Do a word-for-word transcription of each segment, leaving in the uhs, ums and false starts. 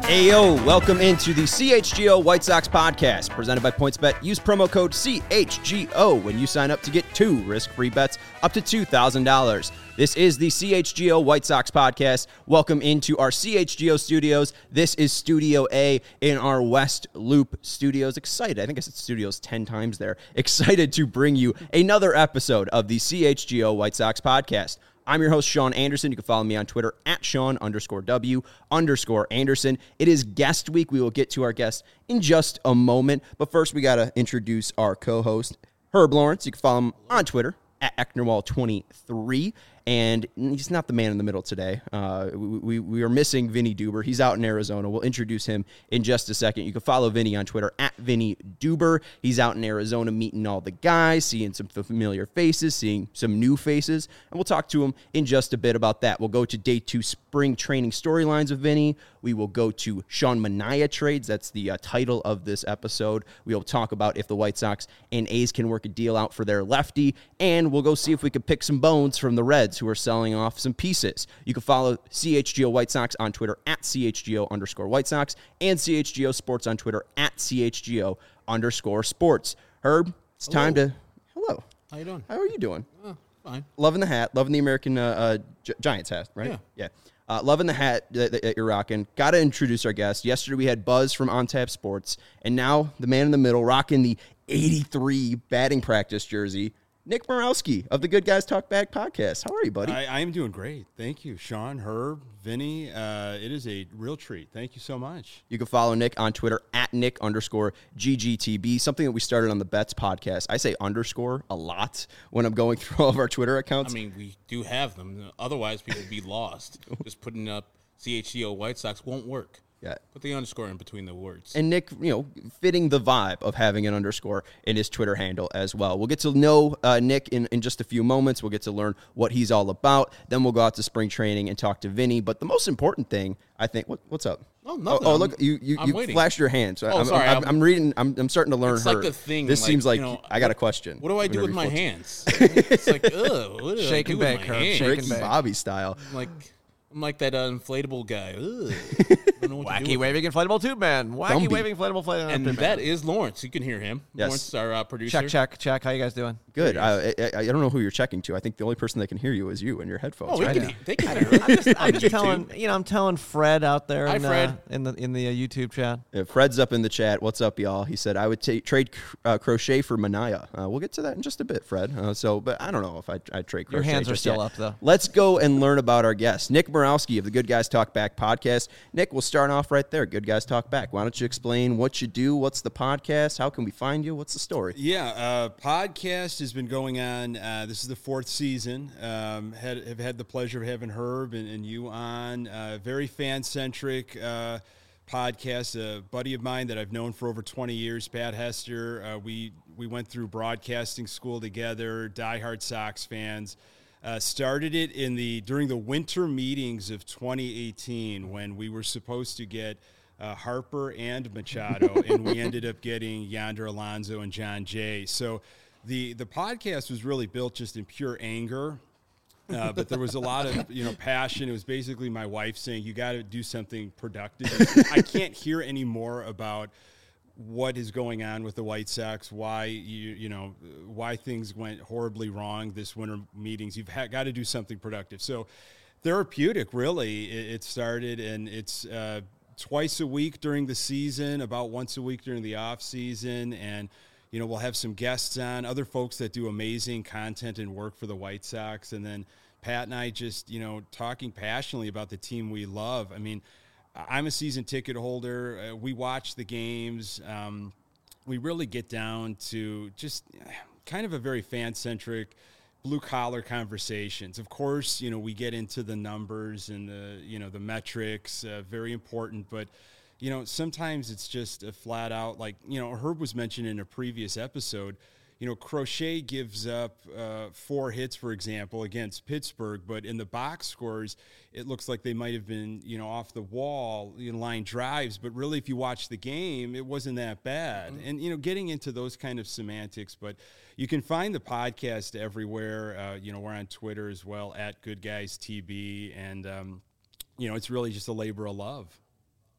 Ayo, welcome into the C H G O White Sox podcast, presented by PointsBet. Use promo code C H G O when you sign up to get two risk-free bets up to two thousand dollars. This is the C H G O White Sox podcast. Welcome into our C H G O studios. This is Studio A in our West Loop studios. Excited, I think I said studios ten times there. Excited to bring you another episode of the C H G O White Sox podcast. I'm your host, Sean Anderson. You can follow me on Twitter at Sean underscore W underscore Anderson. It is guest week. We will get to our guest in just a moment. But first, we got to introduce our co-host, Herb Lawrence. You can follow him on Twitter at Ecknerwall twenty-three. And he's not the man in the middle today. Uh, we, we, we are missing Vinny Duber. He's out in Arizona. We'll introduce him in just a second. You can follow Vinny on Twitter at Vinny Duber. He's out in Arizona meeting all the guys, seeing some familiar faces, seeing some new faces. And we'll talk to him in just a bit about that. We'll go to day two spring training storylines of Vinny. We will go to Sean Manaea trades. That's the uh, title of this episode. We'll talk about if the White Sox and A's can work a deal out for their lefty. And we'll go see if we can pick some bones from the Reds, who are selling off some pieces. You can follow C H G O White Sox on Twitter at C H G O underscore White Sox and C H G O Sports on Twitter at C H G O underscore Sports. Herb, it's Hello. time to... Hello. How you doing? How are you doing? Oh, fine. Loving the hat. Loving the American uh, uh, Gi- Giants hat, right? Yeah. Yeah. Uh, loving the hat that, that you're rocking. Got to introduce our guest. Yesterday we had Buzz from On Tap Sports, and now the man in the middle rocking the eighty-three batting practice jersey, Nick Borowski of the Good Guys Talk Back podcast. How are you, buddy? I, I am doing great. Thank you, Sean, Herb, Vinny. Uh, it is a real treat. Thank you so much. You can follow Nick on Twitter at Nick underscore G G T B, something that we started on the Bets podcast. I say underscore a lot when I'm going through all of our Twitter accounts. I mean, we do have them. Otherwise, people would be lost. Just putting up C H G O White Sox won't work. Yeah. Put the underscore in between the words. And Nick, you know, fitting the vibe of having an underscore in his Twitter handle as well. We'll get to know uh, Nick in, in just a few moments. We'll get to learn what he's all about. Then we'll go out to spring training and talk to Vinny. But the most important thing, I think, what, what's up? Oh, nothing. Oh, oh look, you you, I'm you waiting. flashed your hand. So Oh, I'm, sorry, I'm, I'm- I'm reading. I'm, I'm starting to learn It's her. like the thing. This like, seems like you know, I got a what- question. What do I do whenever with he my flips. hands? It's like, ugh. What do Shake I and do bake, with my Herb. hands? Shake Ricky and bake. Bobby style. I'm like, I'm like that uh, inflatable guy. Ugh. I don't know what to do Wacky with waving inflatable tube man. Wacky Gumby. waving inflatable inflatable And tube that man. is Lawrence. You can hear him. Yes. Lawrence, our uh, producer. Check, check, check. How you guys doing? Good. I, I I don't know who you're checking to. I think the only person that can hear you is you and your headphones. Oh, we right? can, they can hear I'm just, I'm On just YouTube. telling, you know, I'm telling Fred out there Hi, in, Fred. Uh, in the in the uh, YouTube chat. Uh, Fred's up in the chat. What's up, y'all? He said, I would ta- trade uh, Crochet for Manaea. Uh, we'll get to that in just a bit, Fred. Uh, so, but I don't know if I I'd trade Crochet. Your hands are just still yet. up, though. Let's go and learn about our guest, Nick Borowski of the Good Guys Talk Back podcast. Nick, we'll start off right there. Good Guys Talk Back. Why don't you explain what you do? What's the podcast? How can we find you? What's the story? Yeah, uh, podcast has been going on. Uh, this is the fourth season. Um, had, have had the pleasure of having Herb and, and you on. Uh, very fan-centric uh, podcast. A buddy of mine that I've known for over twenty years, Pat Hester. Uh, we, we went through broadcasting school together, diehard Sox fans. Uh, started it in the during the winter meetings of twenty eighteen when we were supposed to get uh, Harper and Machado, and we ended up getting Yonder Alonso and John Jay. So the the podcast was really built just in pure anger, uh, but there was a lot of you know passion. It was basically my wife saying, "You got to do something productive." I can't hear any more about what is going on with the White Sox, why you you know why things went horribly wrong this winter meetings. You've ha- got to do something productive. So therapeutic, really, it, it started, and it's uh, twice a week during the season, about once a week during the off season, and you know we'll have some guests on, other folks that do amazing content and work for the White Sox, and then Pat and I just you know talking passionately about the team we love. I mean, I'm a season ticket holder. Uh, we watch the games. Um, we really get down to just kind of a very fan-centric, blue-collar conversations. Of course, you know, we get into the numbers and the, you know, the metrics, uh, very important. But, you know, sometimes it's just a flat-out, like, you know, Herb was mentioned in a previous episode, you know, Crochet gives up uh, four hits, for example, against Pittsburgh, but in the box scores, it looks like they might have been, you know, off the wall, you know, line drives. But really, if you watch the game, it wasn't that bad. Mm-hmm. And, you know, getting into those kind of semantics. But you can find the podcast everywhere. Uh, you know, we're on Twitter as well, at Good Guys T B. And, um, you know, it's really just a labor of love.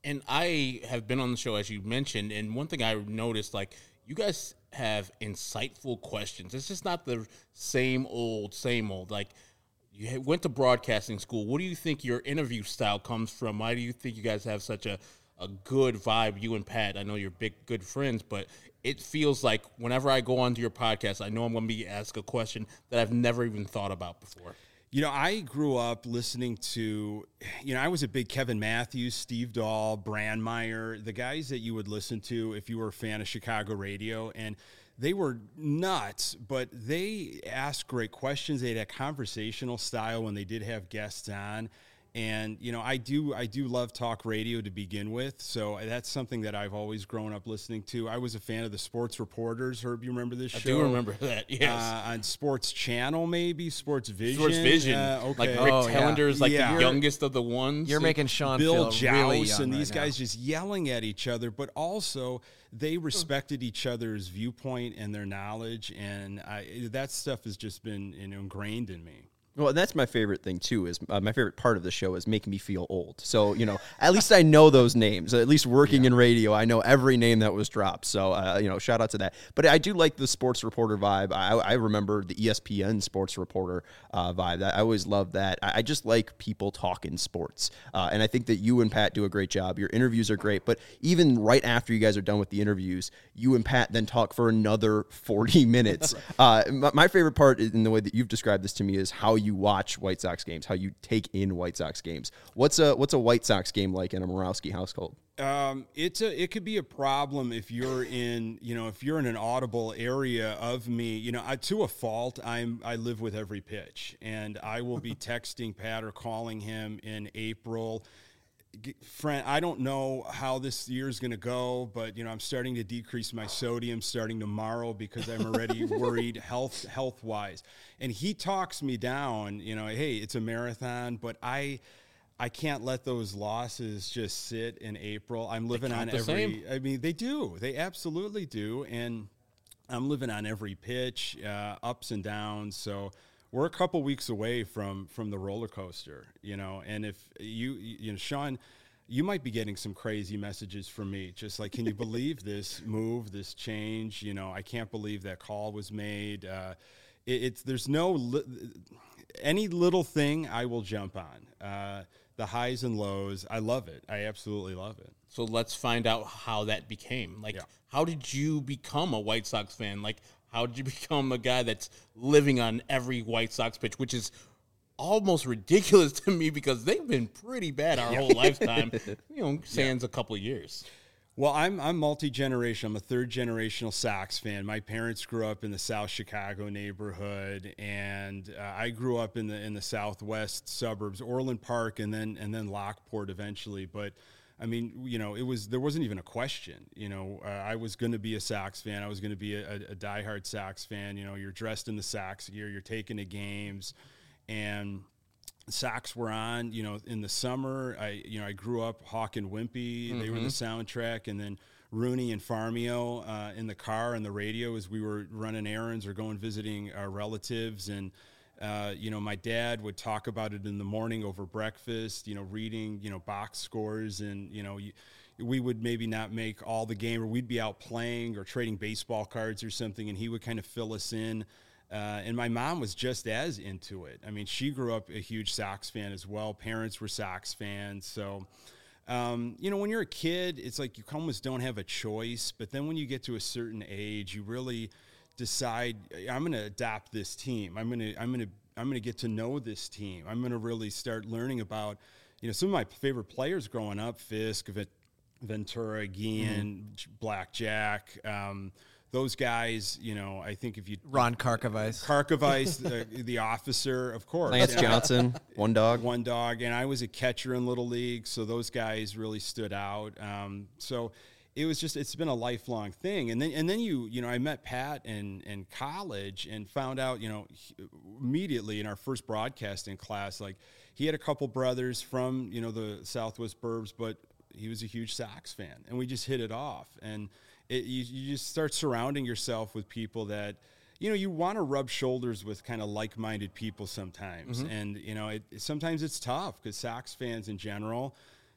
And I have been on the show, as you mentioned, and one thing I noticed, like, you guys have insightful questions. It's just not the same old, same old. Like, you went to broadcasting school. What do you think your interview style comes from? Why do you think you guys have such a, a good vibe, you and Pat? I know you're big, good friends, but it feels like whenever I go onto your podcast, I know I'm going to be asked a question that I've never even thought about before. You know, I grew up listening to, you know, I was a big Kevin Matthews, Steve Dahl, Brandmeier, the guys that you would listen to if you were a fan of Chicago radio. And they were nuts, but they asked great questions. They had a conversational style when they did have guests on. And, you know, I do I do love talk radio to begin with, so that's something that I've always grown up listening to. I was a fan of the Sports Reporters. Herb, you remember this I show? do remember that, yes. Uh, on Sports Channel, maybe? Sports Vision? Sports Vision. Uh, okay. Like Rick Oh, yeah. Tellender's like Yeah. the youngest of the ones. You're making Sean Bill feel really Joust young and right these now. guys just yelling at each other, but also they respected each other's viewpoint and their knowledge, and I, that stuff has just been, you know, ingrained in me. Well, and that's my favorite thing, too, is uh, my favorite part of the show is making me feel old. So, you know, at least I know those names. At least working yeah. in radio, I know every name that was dropped. So, uh, you know, shout out to that. But I do like the sports reporter vibe. I, I remember the E S P N sports reporter uh, vibe. I always loved that. I, I just like people talking sports. Uh, and I think that you and Pat do a great job. Your interviews are great. But even right after you guys are done with the interviews, you and Pat then talk for another forty minutes. uh, my, my favorite part in the way that you've described this to me is how you you watch White Sox games, how you take in White Sox games. What's a what's a White Sox game like in a Morawski household? Um, it's a it could be a problem if you're in you know if you're in an audible area of me. You know, I, to a fault, I'm I live with every pitch, and I will be texting Pat or calling him in April. Friend, I don't know how this year's going to go, but you know, I'm starting to decrease my sodium starting tomorrow because I'm already worried health health wise. And he talks me down. You know, hey, it's a marathon, but I. I can't let those losses just sit in April. I'm living on every. Same. I mean, they do. They absolutely do, and I'm living on every pitch, uh, ups and downs. So we're a couple weeks away from from the roller coaster, you know. And if you, you know, Sean, you might be getting some crazy messages from me, just like, can you believe this move, this change? You know, I can't believe that call was made. Uh, it, it's there's no li- any little thing I will jump on. Uh, The highs and lows, I love it. I absolutely love it. So let's find out how that became. Like, Yeah. how did you become a White Sox fan? Like, how did you become a guy that's living on every White Sox pitch, which is almost ridiculous to me because they've been pretty bad our whole lifetime, you know, sans a couple of years. Well, I'm I'm multi-generational. I'm a third-generational Sox fan. My parents grew up in the South Chicago neighborhood, and uh, I grew up in the in the southwest suburbs, Orland Park, and then and then Lockport eventually. But I mean, you know, it was there wasn't even a question. You know, uh, I was going to be a Sox fan. I was going to be a, a, a diehard Sox fan. You know, you're dressed in the Sox gear, you're taking to games, and Sox were on, you know, in the summer. I, you know, I grew up Hawk and Wimpy. Mm-hmm. They were the soundtrack, and then Rooney and Farmio uh, in the car and the radio as we were running errands or going visiting our relatives. And uh, you know, my dad would talk about it in the morning over breakfast. You know, reading, you know, box scores, and you know, you, we would maybe not make all the game, or we'd be out playing or trading baseball cards or something, and he would kind of fill us in. Uh, and my mom was just as into it. I mean, she grew up a huge Sox fan as well. Parents were Sox fans. So, um, you know, when you're a kid, it's like you almost don't have a choice. But then when you get to a certain age, you really decide, I'm going to adopt this team. I'm going to, I'm going to, I'm going to get to know this team. I'm going to really start learning about, you know, some of my favorite players growing up: Fisk, Ventura, Guillen, mm-hmm. Blackjack. Um, Those guys, you know, I think if you... Ron Karkovice. Karkovice, the, the officer, of course. Lance yeah. Johnson, one dog. One dog. And I was a catcher in Little League, so those guys really stood out. Um, so it was just, it's been a lifelong thing. And then, and then you, you know, I met Pat in, in college and found out, you know, he, immediately in our first broadcasting class, like he had a couple brothers from, you know, the Southwest Burbs, but he was a huge Sox fan. And we just hit it off. And It, you, you just start surrounding yourself with people that, you know, you want to rub shoulders with kind of like-minded people sometimes. Mm-hmm. And, you know, it, sometimes it's tough because Sox fans in general,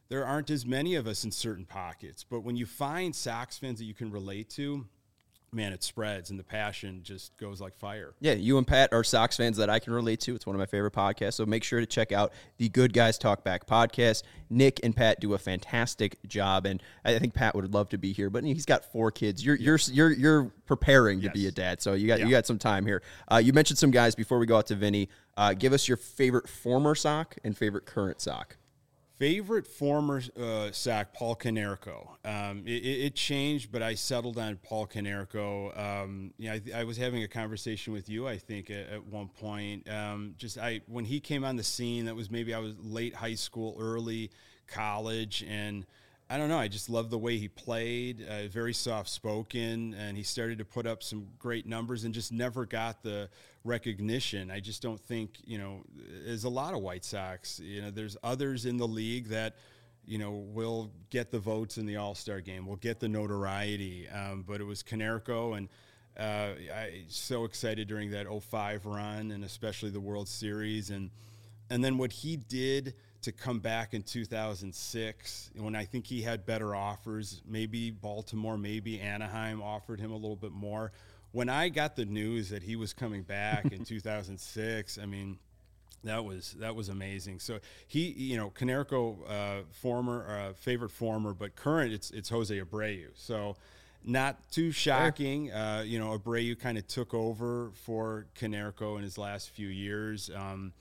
there aren't as many of us in certain pockets. But when you find Sox fans that you can relate to, man, it spreads and the passion just goes like fire. Yeah, you and Pat are Sox fans that I can relate to. It's one of my favorite podcasts. So make sure to check out the Good Guys Talk Back podcast. Nick and Pat do a fantastic job, and I think Pat would love to be here, but he's got four kids. You're you're you're you're preparing to yes. be a dad, so you got yeah. you got some time here. Uh, you mentioned some guys before we go out to Vinny. Uh, give us your favorite former Sox and favorite current Sox. Favorite former uh, Sox, Paul Konerko. Um, it, it changed, but I settled on Paul Konerko. Um, you know, I, I was having a conversation with you, I think, at, at one point. Um, just I when he came on the scene, that was maybe I was late high school, early college, and I don't know. I just loved the way he played, uh, very soft-spoken, and he started to put up some great numbers and just never got the recognition. I just don't think, you know, there's a lot of White Sox. You know, there's others in the league that, you know, will get the votes in the All-Star game, will get the notoriety, um, but it was Konerko, and uh, I so excited during that oh five run, and especially the World Series, and and then what he did to come back in two thousand six when I think he had better offers. Maybe Baltimore, maybe Anaheim offered him a little bit more. When I got the news that he was coming back in two thousand six, I mean, that was that was amazing. So he, you know, Konerko, uh, former uh, favorite former, but current, it's it's Jose Abreu. So not too shocking. Uh, you know, Abreu kind of took over for Konerko in his last few years. Um,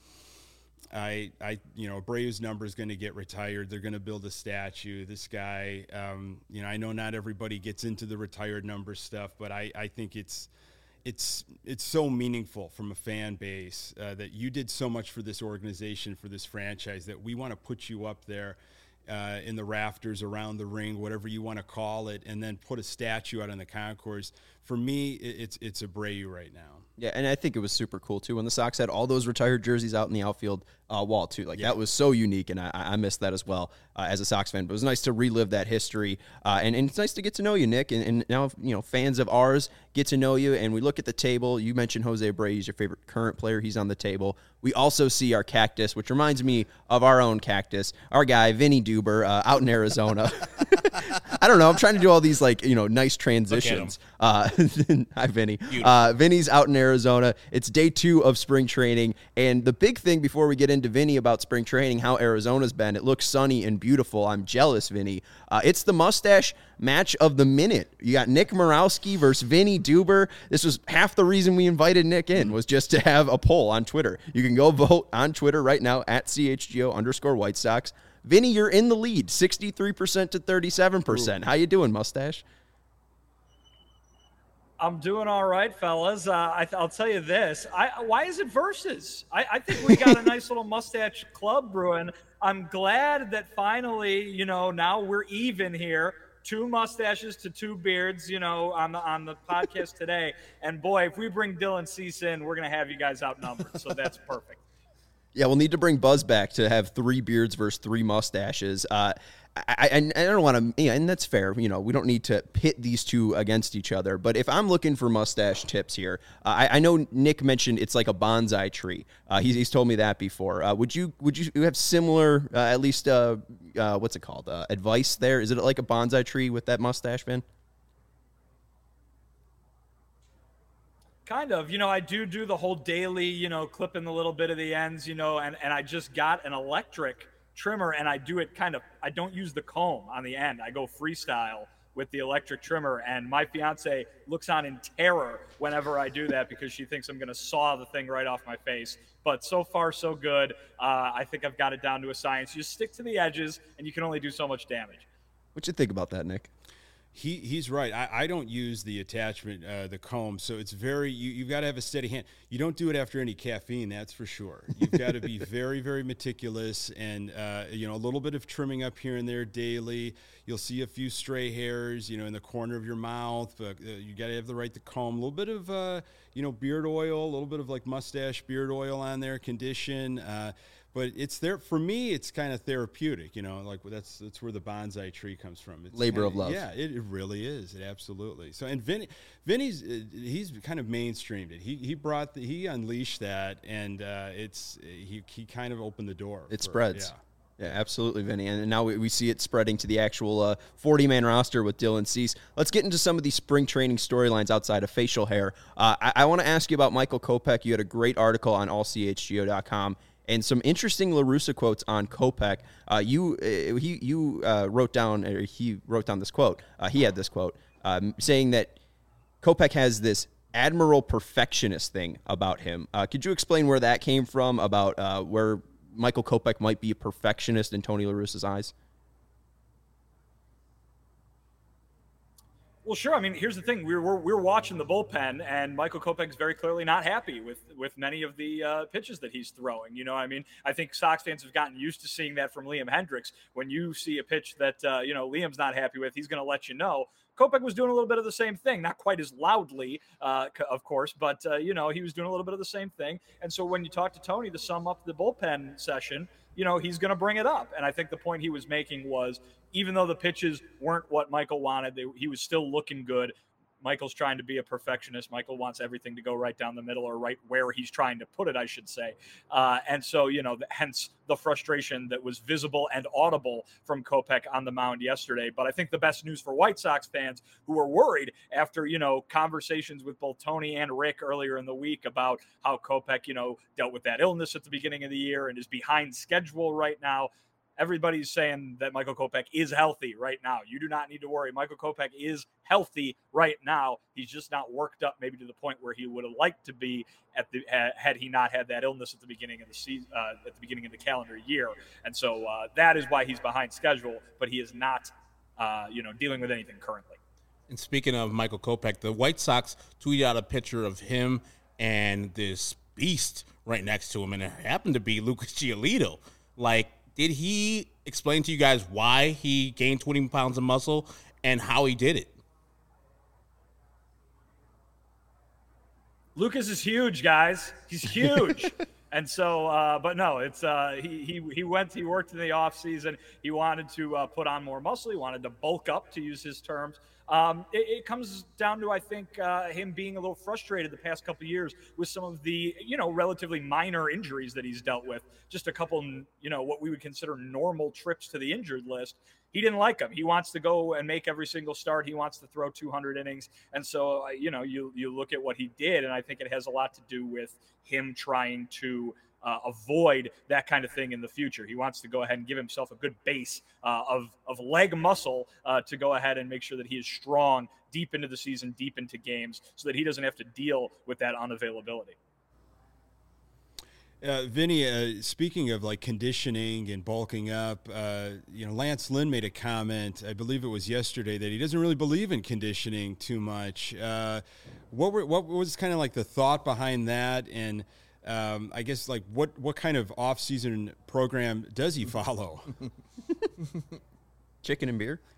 I, I, you know, Abreu's number is going to get retired. They're going to build a statue. This guy, um, you know, I know not everybody gets into the retired number stuff, but I, I think it's, it's, it's so meaningful from a fan base uh, that you did so much for this organization, for this franchise, that we want to put you up there uh, in the rafters, around the ring, whatever you want to call it, and then put a statue out on the concourse. For me, it's, it's Abreu right now. Yeah, and I think it was super cool, too, when the Sox had all those retired jerseys out in the outfield uh, wall, too. Like, yeah. that was so unique, and I, I missed that as well uh, as a Sox fan. But it was nice to relive that history, uh, and, and it's nice to get to know you, Nick. And, and now, you know, fans of ours get to know you, and we look at the table. You mentioned Jose Abreu. He's your favorite current player. He's on the table. We also see our cactus, which reminds me of our own cactus, our guy, Vinny Duber, uh, out in Arizona. I don't know. I'm trying to do all these, like, you know, nice transitions. Uh, hi, Vinny. Uh, Vinny's out in Arizona. It's day two of spring training. And the big thing before we get into Vinny about spring training, how Arizona's been, it looks sunny and beautiful. I'm jealous, Vinny. Uh, it's the mustache match of the minute. You got Nick Morawski versus Vinny Duber. This was half the reason we invited Nick in, was just to have a poll on Twitter. You can go vote on Twitter right now at C H G O underscore White Sox. Vinny, you're in the lead, sixty-three percent to thirty-seven percent. Ooh. How you doing, mustache? I'm doing all right, fellas. Uh, I th- I'll tell you this. I, why is it versus? I, I think we got a nice little mustache club brewing. I'm glad that finally, you know, now we're even here. Two mustaches to two beards, you know, on the on the podcast today. And boy, if we bring Dylan Cease in, we're gonna have you guys outnumbered. So that's perfect. Yeah, we'll need to bring Buzz back to have three beards versus three mustaches. Uh, I, I, I don't want to, yeah, and that's fair. You know, we don't need to pit these two against each other. But if I'm looking for mustache tips here, uh, I, I know Nick mentioned it's like a bonsai tree. Uh, he's, he's told me that before. Uh, would you would you have similar, uh, at least, uh, uh, what's it called, uh, advice there? Is it like a bonsai tree with that mustache, Vin? Kind of. You know, I do do the whole daily, you know, clipping the little bit of the ends, you know, and, and I just got an electric trimmer, and I do it kind of, I don't use the comb on the end. I go freestyle with the electric trimmer, and my fiance looks on in terror whenever I do that because she thinks I'm going to saw the thing right off my face. But so far, so good. Uh, I think I've got it down to a science. You stick to the edges, and you can only do so much damage. What you think about that, Nick? He he's right. I, I don't use the attachment, uh, the comb, so it's very, you, you've got to have a steady hand. You don't do it after any caffeine, that's for sure. You've got to be very, very meticulous, and, uh, you know, a little bit of trimming up here and there daily. You'll see a few stray hairs, you know, in the corner of your mouth, but uh, you got to have the right to comb. A little bit of, uh, you know, beard oil, a little bit of like mustache beard oil on there, condition. Uh, But it's there for me. It's kind of therapeutic, you know. Like that's that's where the bonsai tree comes from. It's labor kinda, of love. Yeah, it, it really is. It absolutely. So and Vinny, Vinny's uh, he's kind of mainstreamed it. He he brought the, he unleashed that, and uh, it's he he kind of opened the door. It for, spreads. Yeah. Yeah, absolutely, Vinny. And now we, we see it spreading to the actual uh, forty-man roster with Dylan Cease. Let's get into some of these spring training storylines outside of facial hair. Uh, I, I want to ask you about Michael Kopech. You had a great article on all c h g o dot com and some interesting La Russa quotes on Kopech. Uh, you uh, he you uh, wrote down or he wrote down this quote. Uh, he had this quote um, saying that Kopech has this admiral perfectionist thing about him. Uh, could you explain where that came from? About uh, where Michael Kopech might be a perfectionist in Tony La Russa's eyes? Well, sure. I mean, here's the thing: we're we're, we're watching the bullpen, and Michael Kopech's very clearly not happy with with many of the uh, pitches that he's throwing. You know, I mean, I think Sox fans have gotten used to seeing that from Liam Hendriks. When you see a pitch that uh, you know Liam's not happy with, he's going to let you know. Kopech was doing a little bit of the same thing, not quite as loudly, uh, of course, but, uh, you know, he was doing a little bit of the same thing. And so when you talk to Tony to sum up the bullpen session, you know, he's going to bring it up. And I think the point he was making was, even though the pitches weren't what Michael wanted, they, he was still looking good. Michael's trying to be a perfectionist. Michael wants everything to go right down the middle, or right where he's trying to put it, I should say. Uh, and so, you know, the, hence the frustration that was visible and audible from Kopech on the mound yesterday. But I think the best news for White Sox fans who were worried after, you know, conversations with both Tony and Rick earlier in the week about how Kopech, you know, dealt with that illness at the beginning of the year and is behind schedule right now. Everybody's saying that Michael Kopech is healthy right now. You do not need to worry. Michael Kopech is healthy right now. He's just not worked up maybe to the point where he would have liked to be at the had he not had that illness at the beginning of the season, uh, at the beginning of the calendar year. And so uh, that is why he's behind schedule, but he is not, uh, you know, dealing with anything currently. And speaking of Michael Kopech, the White Sox tweeted out a picture of him and this beast right next to him, and it happened to be Lucas Giolito. Like, did he explain to you guys why he gained twenty pounds of muscle and how he did it? Lucas is huge, guys. He's huge. And so, uh, but no, it's uh, he he he went. He worked in the off season. He wanted to uh, put on more muscle. He wanted to bulk up, to use his terms. Um, it, it comes down to, I think, uh, him being a little frustrated the past couple of years with some of the, you know, relatively minor injuries that he's dealt with. Just a couple, you know, what we would consider normal trips to the injured list. He didn't like them. He wants to go and make every single start. He wants to throw two hundred innings. And so, uh, you know, you you look at what he did, and I think it has a lot to do with him trying to uh, avoid that kind of thing in the future. He wants to go ahead and give himself a good base uh, of, of leg muscle uh, to go ahead and make sure that he is strong deep into the season, deep into games, so that he doesn't have to deal with that unavailability. Uh, Vinny, uh, speaking of like conditioning and bulking up, uh, you know, Lance Lynn made a comment, I believe it was yesterday, that he doesn't really believe in conditioning too much. Uh, what were, what was kind of like the thought behind that? And um, I guess like what, what kind of off-season program does he follow? Chicken and beer?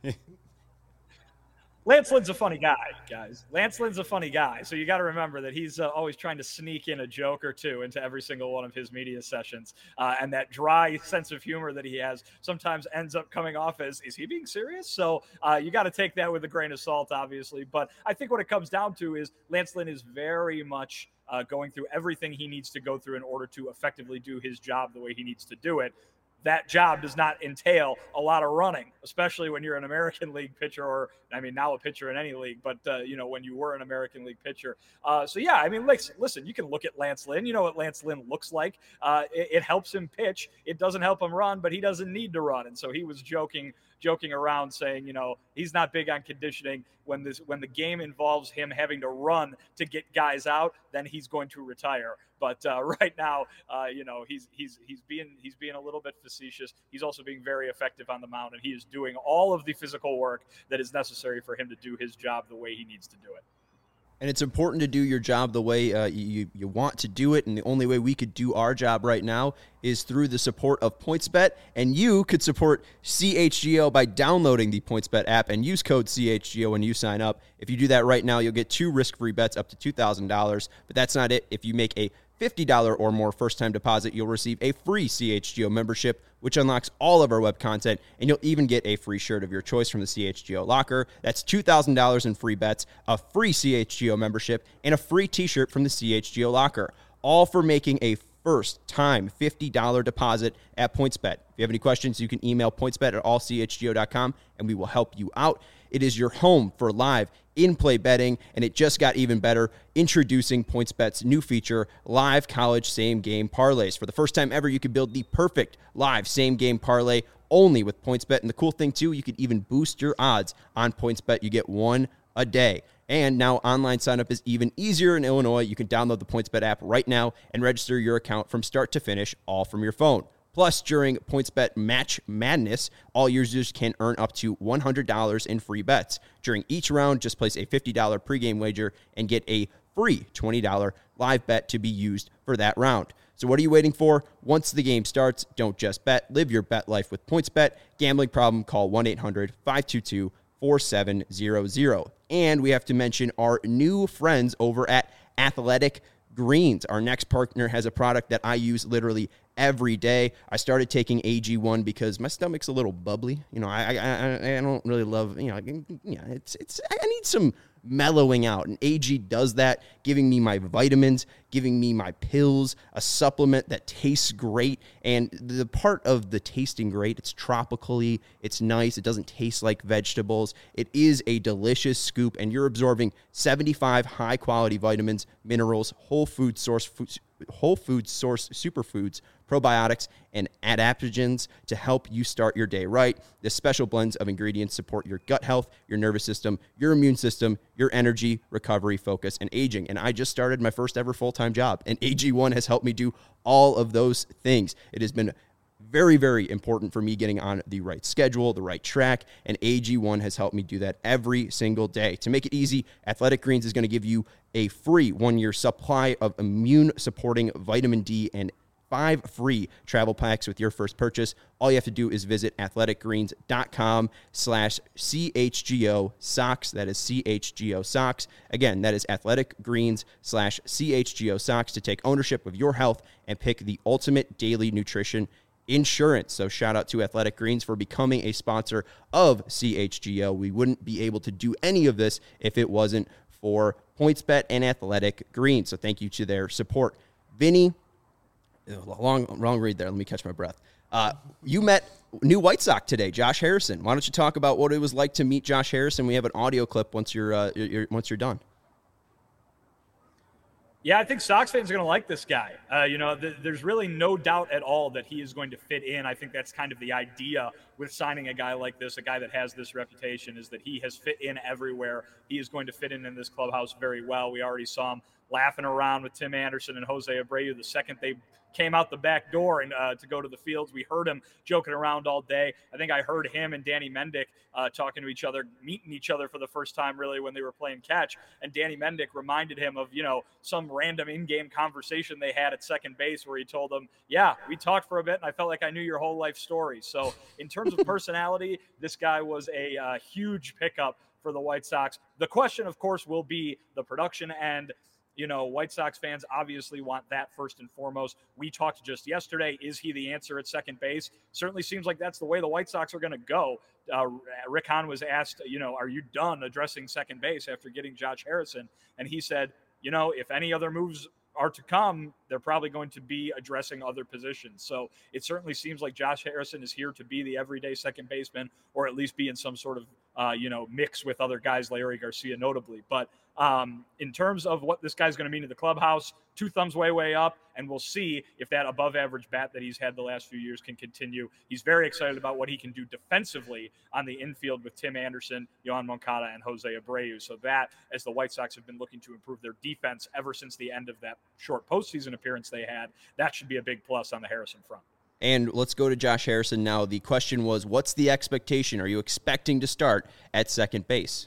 Lance Lynn's a funny guy, guys. Lance Lynn's a funny guy. So you got to remember that he's uh, always trying to sneak in a joke or two into every single one of his media sessions. Uh, and that dry sense of humor that he has sometimes ends up coming off as, is he being serious? So uh, you got to take that with a grain of salt, obviously. But I think what it comes down to is Lance Lynn is very much uh, going through everything he needs to go through in order to effectively do his job the way he needs to do it. That job does not entail a lot of running, especially when you're an American League pitcher, or I mean, now a pitcher in any league, but uh, you know, when you were an American League pitcher. Uh, so yeah, I mean, listen, listen, you can look at Lance Lynn. You know what Lance Lynn looks like. Uh, it, it helps him pitch. It doesn't help him run, but he doesn't need to run. And so he was joking, joking around saying, you know, he's not big on conditioning. When this, when the game involves him having to run to get guys out, then he's going to retire. But uh, right now, uh, you know, he's he's he's being he's being a little bit facetious. He's also being very effective on the mound, and he is doing all of the physical work that is necessary for him to do his job the way he needs to do it. And it's important to do your job the way uh, you, you want to do it. And the only way we could do our job right now is through the support of PointsBet. And you could support C H G O by downloading the PointsBet app and use code C H G O when you sign up. If you do that right now, you'll get two risk-free bets up to two thousand dollars. But that's not it. If you make a fifty dollars or more first-time deposit, you'll receive a free C H G O membership, which unlocks all of our web content, and you'll even get a free shirt of your choice from the C H G O locker. That's two thousand dollars in free bets, a free C H G O membership, and a free t-shirt from the C H G O locker, all for making a first time fifty dollars deposit at PointsBet. If you have any questions, you can email pointsbet at all c h g o dot com and we will help you out. It is your home for live in-play betting, and it just got even better. Introducing PointsBet's new feature, Live College Same-Game Parlays. For the first time ever, you can build the perfect live same-game parlay only with PointsBet. And the cool thing, too, you can even boost your odds on PointsBet. You get one a day. And now online sign-up is even easier in Illinois. You can download the PointsBet app right now and register your account from start to finish, all from your phone. Plus, during PointsBet Match Madness, all users can earn up to one hundred dollars in free bets. During each round, just place a fifty dollars pregame wager and get a free twenty dollars live bet to be used for that round. So what are you waiting for? Once the game starts, don't just bet. Live your bet life with PointsBet. Gambling problem, call one eight hundred five two two four seven zero zero. And we have to mention our new friends over at Athletic Greens. Our next partner has a product that I use literally every day. I started taking A G one because my stomach's a little bubbly. You know, I I, I don't really love, you know, yeah, it's it's I need some mellowing out, and A G does that, giving me my vitamins, giving me my pills, a supplement that tastes great. And the part of the tasting great, it's tropically, it's nice, it doesn't taste like vegetables. It is a delicious scoop, and you're absorbing seventy-five high quality vitamins, minerals, whole food source food, whole food source superfoods, probiotics, and adaptogens to help you start your day right. This special blends of ingredients support your gut health, your nervous system, your immune system, your energy, recovery, focus, and aging. And I just started my first ever full-time job, and A G one has helped me do all of those things. It has been very, very important for me getting on the right schedule, the right track, and A G one has helped me do that every single day. To make it easy, Athletic Greens is going to give you a free one-year supply of immune-supporting vitamin D and five free travel packs with your first purchase. All you have to do is visit athleticgreens.com slash CHGO socks. That is C H G O socks. Again, that is athleticgreens slash CHGO socks to take ownership of your health and pick the ultimate daily nutrition insurance. So shout out to Athletic Greens for becoming a sponsor of C H G O. We wouldn't be able to do any of this if it wasn't for PointsBet and Athletic Greens. So thank you to their support. Vinny, long, long read there. Let me catch my breath. Uh, you met new White Sox today, Josh Harrison. Why don't you talk about what it was like to meet Josh Harrison? We have an audio clip once you're, uh, you're once you're done. Yeah, I think Sox fans are going to like this guy. Uh, you know, th- there's really no doubt at all that he is going to fit in. I think that's kind of the idea with signing a guy like this, a guy that has this reputation, is that he has fit in everywhere. He is going to fit in in this clubhouse very well. We already saw him laughing around with Tim Anderson and Jose Abreu the second they came out the back door and uh, to go to the fields. We heard him joking around all day. I think I heard him and Danny Mendick uh, talking to each other, meeting each other for the first time really when they were playing catch. And Danny Mendick reminded him of, you know, some random in-game conversation they had at second base where he told him, yeah, we talked for a bit and I felt like I knew your whole life story. So in terms of personality, this guy was a uh, huge pickup for the White Sox. The question, of course, will be the production end. You know, White Sox fans obviously want that first and foremost. We talked just yesterday. Is he the answer at second base? Certainly seems like that's the way the White Sox are going to go. Uh, Rick Hahn was asked, you know, are you done addressing second base after getting Josh Harrison? And he said, you know, if any other moves are to come, they're probably going to be addressing other positions. So it certainly seems like Josh Harrison is here to be the everyday second baseman, or at least be in some sort of, uh, you know, mix with other guys, Larry Garcia notably. But um, in terms of what this guy's going to mean to the clubhouse, two thumbs way, way up, and we'll see if that above average bat that he's had the last few years can continue. He's very excited about what he can do defensively on the infield with Tim Anderson, Yohan Moncada, and Jose Abreu. So that, as the White Sox have been looking to improve their defense ever since the end of that short postseason appearance they had, that should be a big plus on the Harrison front. And let's go to Josh Harrison now. The question was, what's the expectation? Are you expecting to start at second base?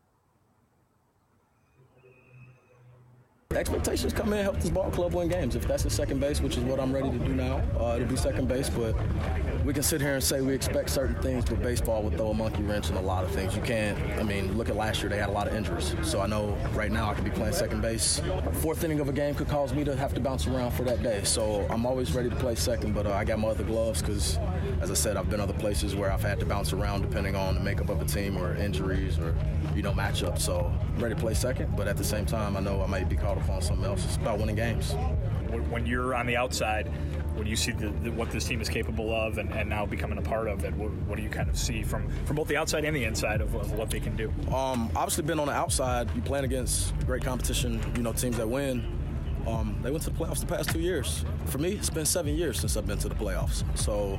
Expectations come in, help this ball club win games. If that's the second base, which is what I'm ready to do now, uh, it'll be second base. But we can sit here and say we expect certain things, but baseball will throw a monkey wrench in a lot of things. You can't, I mean, look at last year, they had a lot of injuries. So I know right now I could be playing second base. Fourth inning of a game could cause me to have to bounce around for that day. So I'm always ready to play second, but uh, I got my other gloves because, as I said, I've been other places where I've had to bounce around depending on the makeup of a team or injuries or, you know, matchups. So I'm ready to play second, but at the same time, I know I might be called move on to something else. It's about winning games. When you're on the outside, when you see the, the, what this team is capable of and, and now becoming a part of it, what, what do you kind of see from, from both the outside and the inside of, of what they can do? Um, obviously, being on the outside, you playing against great competition, you know, teams that win. Um, they went to the playoffs the past two years. For me, it's been seven years since I've been to the playoffs. So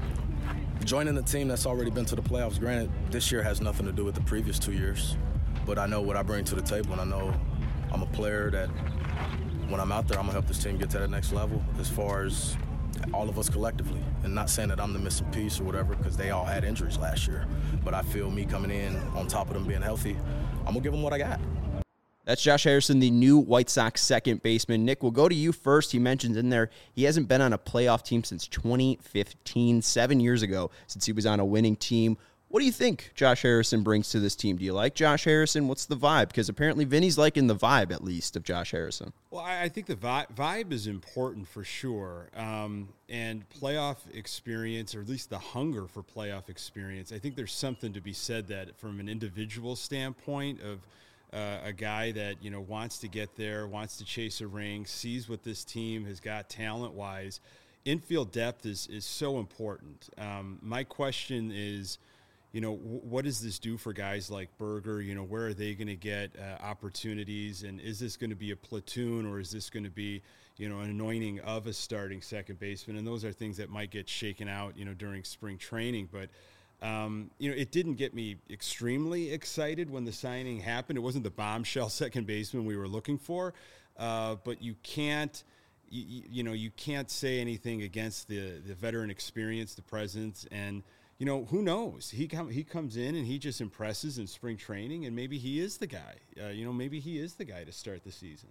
joining a team that's already been to the playoffs, granted, this year has nothing to do with the previous two years, but I know what I bring to the table, and I know I'm a player that when I'm out there, I'm going to help this team get to that next level as far as all of us collectively. And not saying that I'm the missing piece or whatever, because they all had injuries last year. But I feel me coming in on top of them being healthy, I'm going to give them what I got. That's Josh Harrison, the new White Sox second baseman. Nick, we'll go to you first. He mentions in there he hasn't been on a playoff team since twenty fifteen, seven years ago, since he was on a winning team. What do you think Josh Harrison brings to this team? Do you like Josh Harrison? What's the vibe? Because apparently Vinny's liking the vibe, at least, of Josh Harrison. Well, I, I think the vi- vibe is important for sure. Um, and playoff experience, or at least the hunger for playoff experience, I think there's something to be said that from an individual standpoint of uh, a guy that, you know, wants to get there, wants to chase a ring, sees what this team has got talent-wise. Infield depth is, is so important. Um, my question is, you know, what does this do for guys like Berger? You know, where are they going to get uh, opportunities? And is this going to be a platoon, or is this going to be, you know, an anointing of a starting second baseman? And those are things that might get shaken out, you know, during spring training. But, um, you know, it didn't get me extremely excited when the signing happened. It wasn't the bombshell second baseman we were looking for. Uh, but you can't, you, you know, you can't say anything against the, the veteran experience, the presence, and, you know, who knows? He com- he comes in and he just impresses in spring training, and maybe he is the guy. Uh, you know, maybe he is the guy to start the season.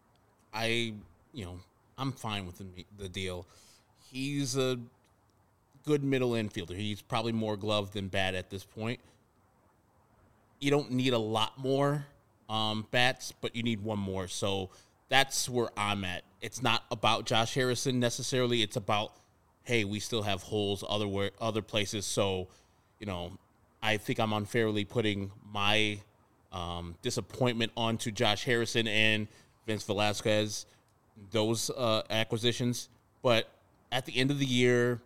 I, you know, I'm fine with the, the deal. He's a good middle infielder. He's probably more glove than bat at this point. You don't need a lot more um, bats, but you need one more. So that's where I'm at. It's not about Josh Harrison necessarily. It's about, hey, we still have holes other other places. So, you know, I think I'm unfairly putting my um, disappointment onto Josh Harrison and Vince Velasquez, those uh, acquisitions. But at the end of the year,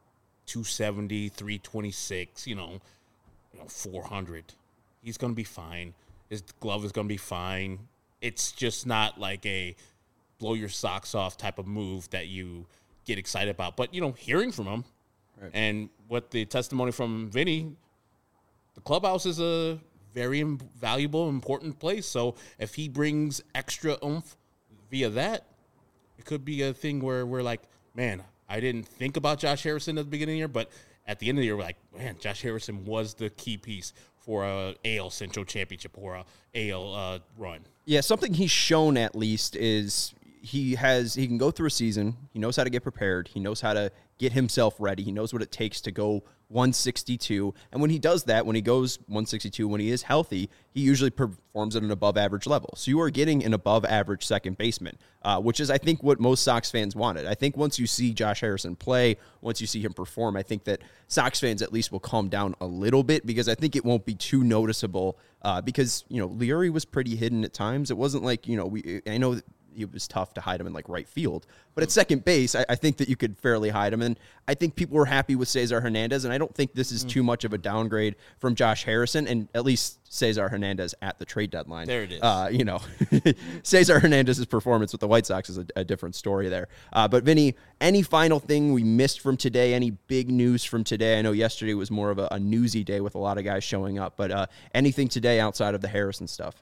two seventy, three twenty-six, you know, you know four hundred. He's going to be fine. His glove is going to be fine. It's just not like a blow your socks off type of move that you get excited about. But, you know, hearing from him right. and what the testimony from Vinny, the clubhouse is a very valuable, important place. So if he brings extra oomph via that, it could be a thing where we're like, man, I didn't think about Josh Harrison at the beginning of the year, but at the end of the year, we're like, man, Josh Harrison was the key piece for a A L Central Championship or a A L uh, run. Yeah, something he's shown at least is he has he can go through a season. He knows how to get prepared. He knows how to get himself ready. He knows what it takes to go one sixty-two. And when he does that, when he goes one sixty-two, when he is healthy, he usually performs at an above average level. So you are getting an above average second baseman, uh, which is, I think, what most Sox fans wanted. I think once you see Josh Harrison play, once you see him perform, I think that Sox fans at least will calm down a little bit, because I think it won't be too noticeable uh, because, you know, Leury was pretty hidden at times. It wasn't like, you know, we I know that it was tough to hide him in like right field, but at second base, I, I think that you could fairly hide him. And I think people were happy with Cesar Hernandez. And I don't think this is too much of a downgrade from Josh Harrison, and at least Cesar Hernandez at the trade deadline. There it is. Uh, you know, Cesar Hernandez's performance with the White Sox is a, a different story there. Uh, but Vinny, any final thing we missed from today? Any big news from today? I know yesterday was more of a, a newsy day with a lot of guys showing up, but uh, anything today outside of the Harrison stuff?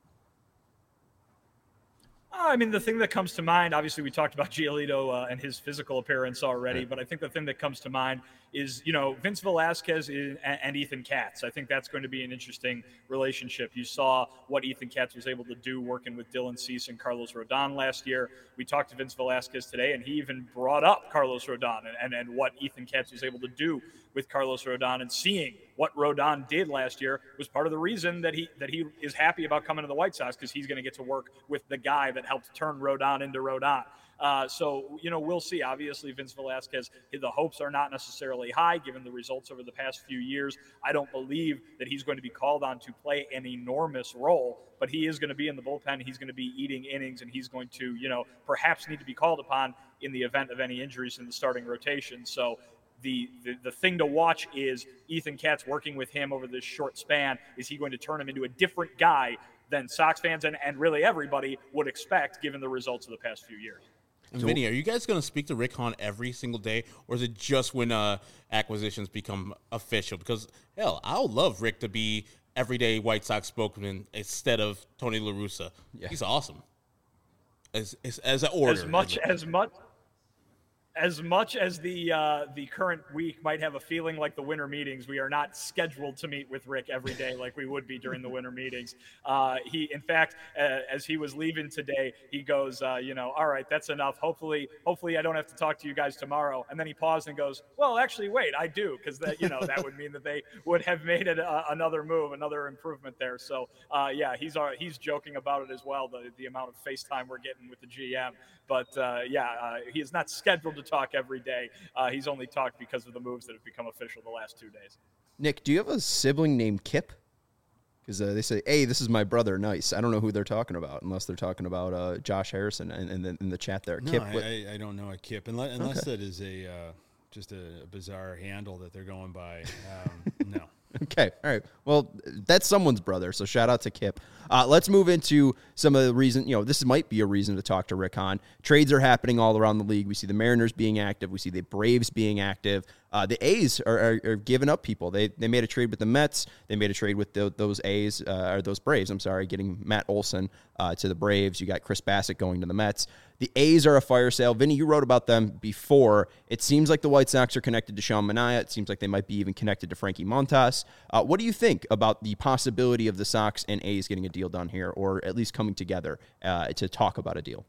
I mean, the thing that comes to mind, obviously we talked about Giolito uh, and his physical appearance already, but I think the thing that comes to mind is, you know, Vince Velasquez is, and, and Ethan Katz. I think that's going to be an interesting relationship. You saw what Ethan Katz was able to do working with Dylan Cease and Carlos Rodon last year. We talked to Vince Velasquez today, and he even brought up Carlos Rodon and, and, and what Ethan Katz was able to do with Carlos Rodon, and seeing what Rodon did last year was part of the reason that he that he is happy about coming to the White Sox, because he's going to get to work with the guy that helped turn Rodon into Rodon. Uh, so, you know, we'll see. Obviously, Vince Velasquez, the hopes are not necessarily high given the results over the past few years. I don't believe that he's going to be called on to play an enormous role, but he is going to be in the bullpen. He's going to be eating innings, and he's going to, you know, perhaps need to be called upon in the event of any injuries in the starting rotation. So the, the, the thing to watch is Ethan Katz working with him over this short span. Is he going to turn him into a different guy than Sox fans and, and really everybody would expect given the results of the past few years? And Vinny, are you guys going to speak to Rick Hahn every single day, or is it just when uh, acquisitions become official? Because, hell, I would love Rick to be everyday White Sox spokesman instead of Tony La Russa. Yeah. He's awesome. As, as, as an order. As much as much. As much as the uh, the current week might have a feeling like the winter meetings, we are not scheduled to meet with Rick every day like we would be during the winter meetings. Uh, he, in fact, uh, as he was leaving today, he goes, uh, you know, all right, that's enough. Hopefully, hopefully I don't have to talk to you guys tomorrow. And then he paused and goes, well, actually, wait, I do, because that, you know, that would mean that they would have made it uh, another move, another improvement there. So, uh, yeah, he's uh, he's joking about it as well, the the amount of FaceTime we're getting with the G M. But, uh, yeah, uh, he is not scheduled to talk every day. Uh, he's only talked because of the moves that have become official the last two days. Nick, do you have a sibling named Kip? Because uh, they say, hey, this is my brother, nice. I don't know who they're talking about, unless they're talking about uh, Josh Harrison and, and in, in the chat there. No, Kip, I, I, I don't know a Kip, unless, unless okay. that is a uh, just a, a bizarre handle that they're going by. Um, no. Okay, all right. Well, that's someone's brother, so shout out to Kip. Uh, let's move into some of the reason, you know, this might be a reason to talk to Rick Hahn. Trades are happening all around the league. We see the Mariners being active. We see the Braves being active. Uh, the A's are, are, are giving up people. They they made a trade with the Mets. They made a trade with the, those A's, uh, or those Braves, I'm sorry, getting Matt Olson uh, to the Braves. You got Chris Bassett going to the Mets. The A's are a fire sale. Vinny, you wrote about them before. It seems like the White Sox are connected to Sean Manaea. It seems like they might be even connected to Frankie Montas. Uh, what do you think about the possibility of the Sox and A's getting a deal done here, or at least coming together uh, to talk about a deal?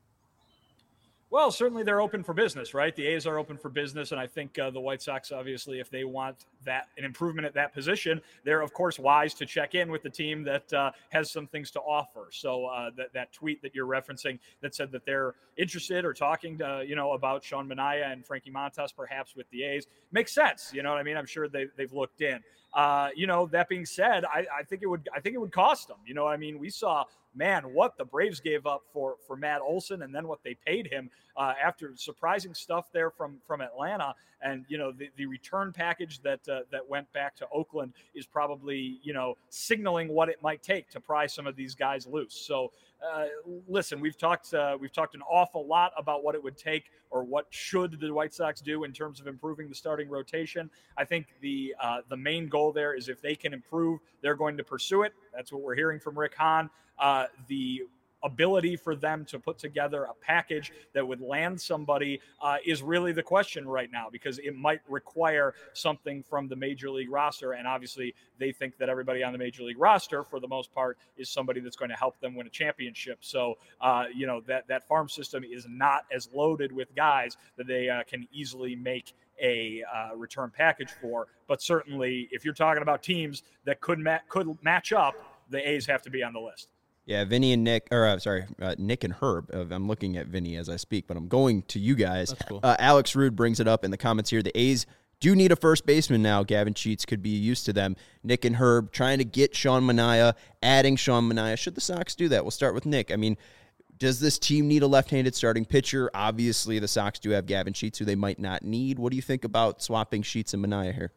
Well, certainly they're open for business, right? The A's are open for business, and I think uh, the White Sox, obviously, if they want that an improvement at that position, they're, of course, wise to check in with the team that uh, has some things to offer. So uh, that, that tweet that you're referencing that said that they're interested or talking to, you know, about Sean Manaea and Frankie Montas, perhaps with the A's, makes sense. You know what I mean? I'm sure they, they've looked in. Uh, you know, that being said, I, I think it would I think it would cost them. You know what I mean? We saw, man, what the Braves gave up for for Matt Olson, and then what they paid him uh, after surprising stuff there from from Atlanta. And, you know, the, the return package that uh, that went back to Oakland is probably, you know, signaling what it might take to pry some of these guys loose. So, uh, listen, we've talked uh, we've talked an awful lot about what it would take or what should the White Sox do in terms of improving the starting rotation. I think the uh, the main goal there is if they can improve, they're going to pursue it. That's what we're hearing from Rick Hahn. Uh, the ability for them to put together a package that would land somebody uh, is really the question right now, because it might require something from the major league roster. And obviously they think that everybody on the major league roster, for the most part, is somebody that's going to help them win a championship. So, uh, you know, that, that farm system is not as loaded with guys that they uh, can easily make a uh, return package for. But certainly if you're talking about teams that could ma- could match up, the A's have to be on the list. Yeah, Vinny and Nick, or uh, sorry, uh, Nick and Herb. Uh, I'm looking at Vinny as I speak, but I'm going to you guys. That's cool. Uh, Alex Rude brings it up in the comments here. The A's do need a first baseman now. Gavin Sheets could be used to them. Nick and Herb trying to get Sean Manaea, adding Sean Manaea. Should the Sox do that? We'll start with Nick. I mean, does this team need a left-handed starting pitcher? Obviously, the Sox do have Gavin Sheets, who they might not need. What do you think about swapping Sheets and Manaea here?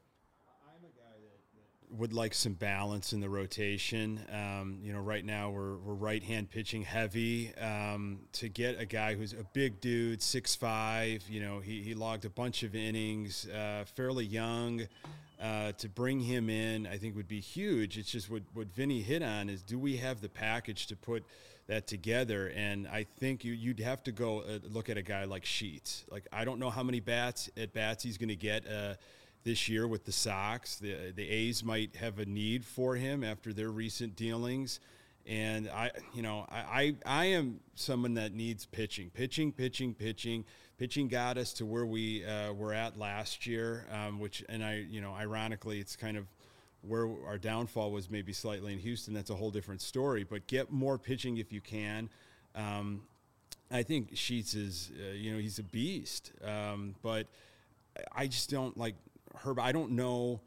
Would like some balance in the rotation. Um, you know, right now we're we're right hand pitching heavy. Um, to get a guy who's a big dude, six five, you know, he he logged a bunch of innings, uh, fairly young. Uh, to bring him in, I think would be huge. It's just what what Vinny hit on is, do we have the package to put that together? And I think you you'd have to go uh, look at a guy like Sheets. Like, I don't know how many bats at bats he's going to get. Uh, This year with the Sox, the the A's might have a need for him after their recent dealings, and I, you know, I I, I am someone that needs pitching, pitching, pitching, pitching. Pitching got us to where we uh, were at last year, um, which, and I, you know, ironically, it's kind of where our downfall was maybe slightly in Houston. That's a whole different story. But get more pitching if you can. Um, I think Sheets is, uh, you know, he's a beast. Um, but I just don't like Herb. I don't know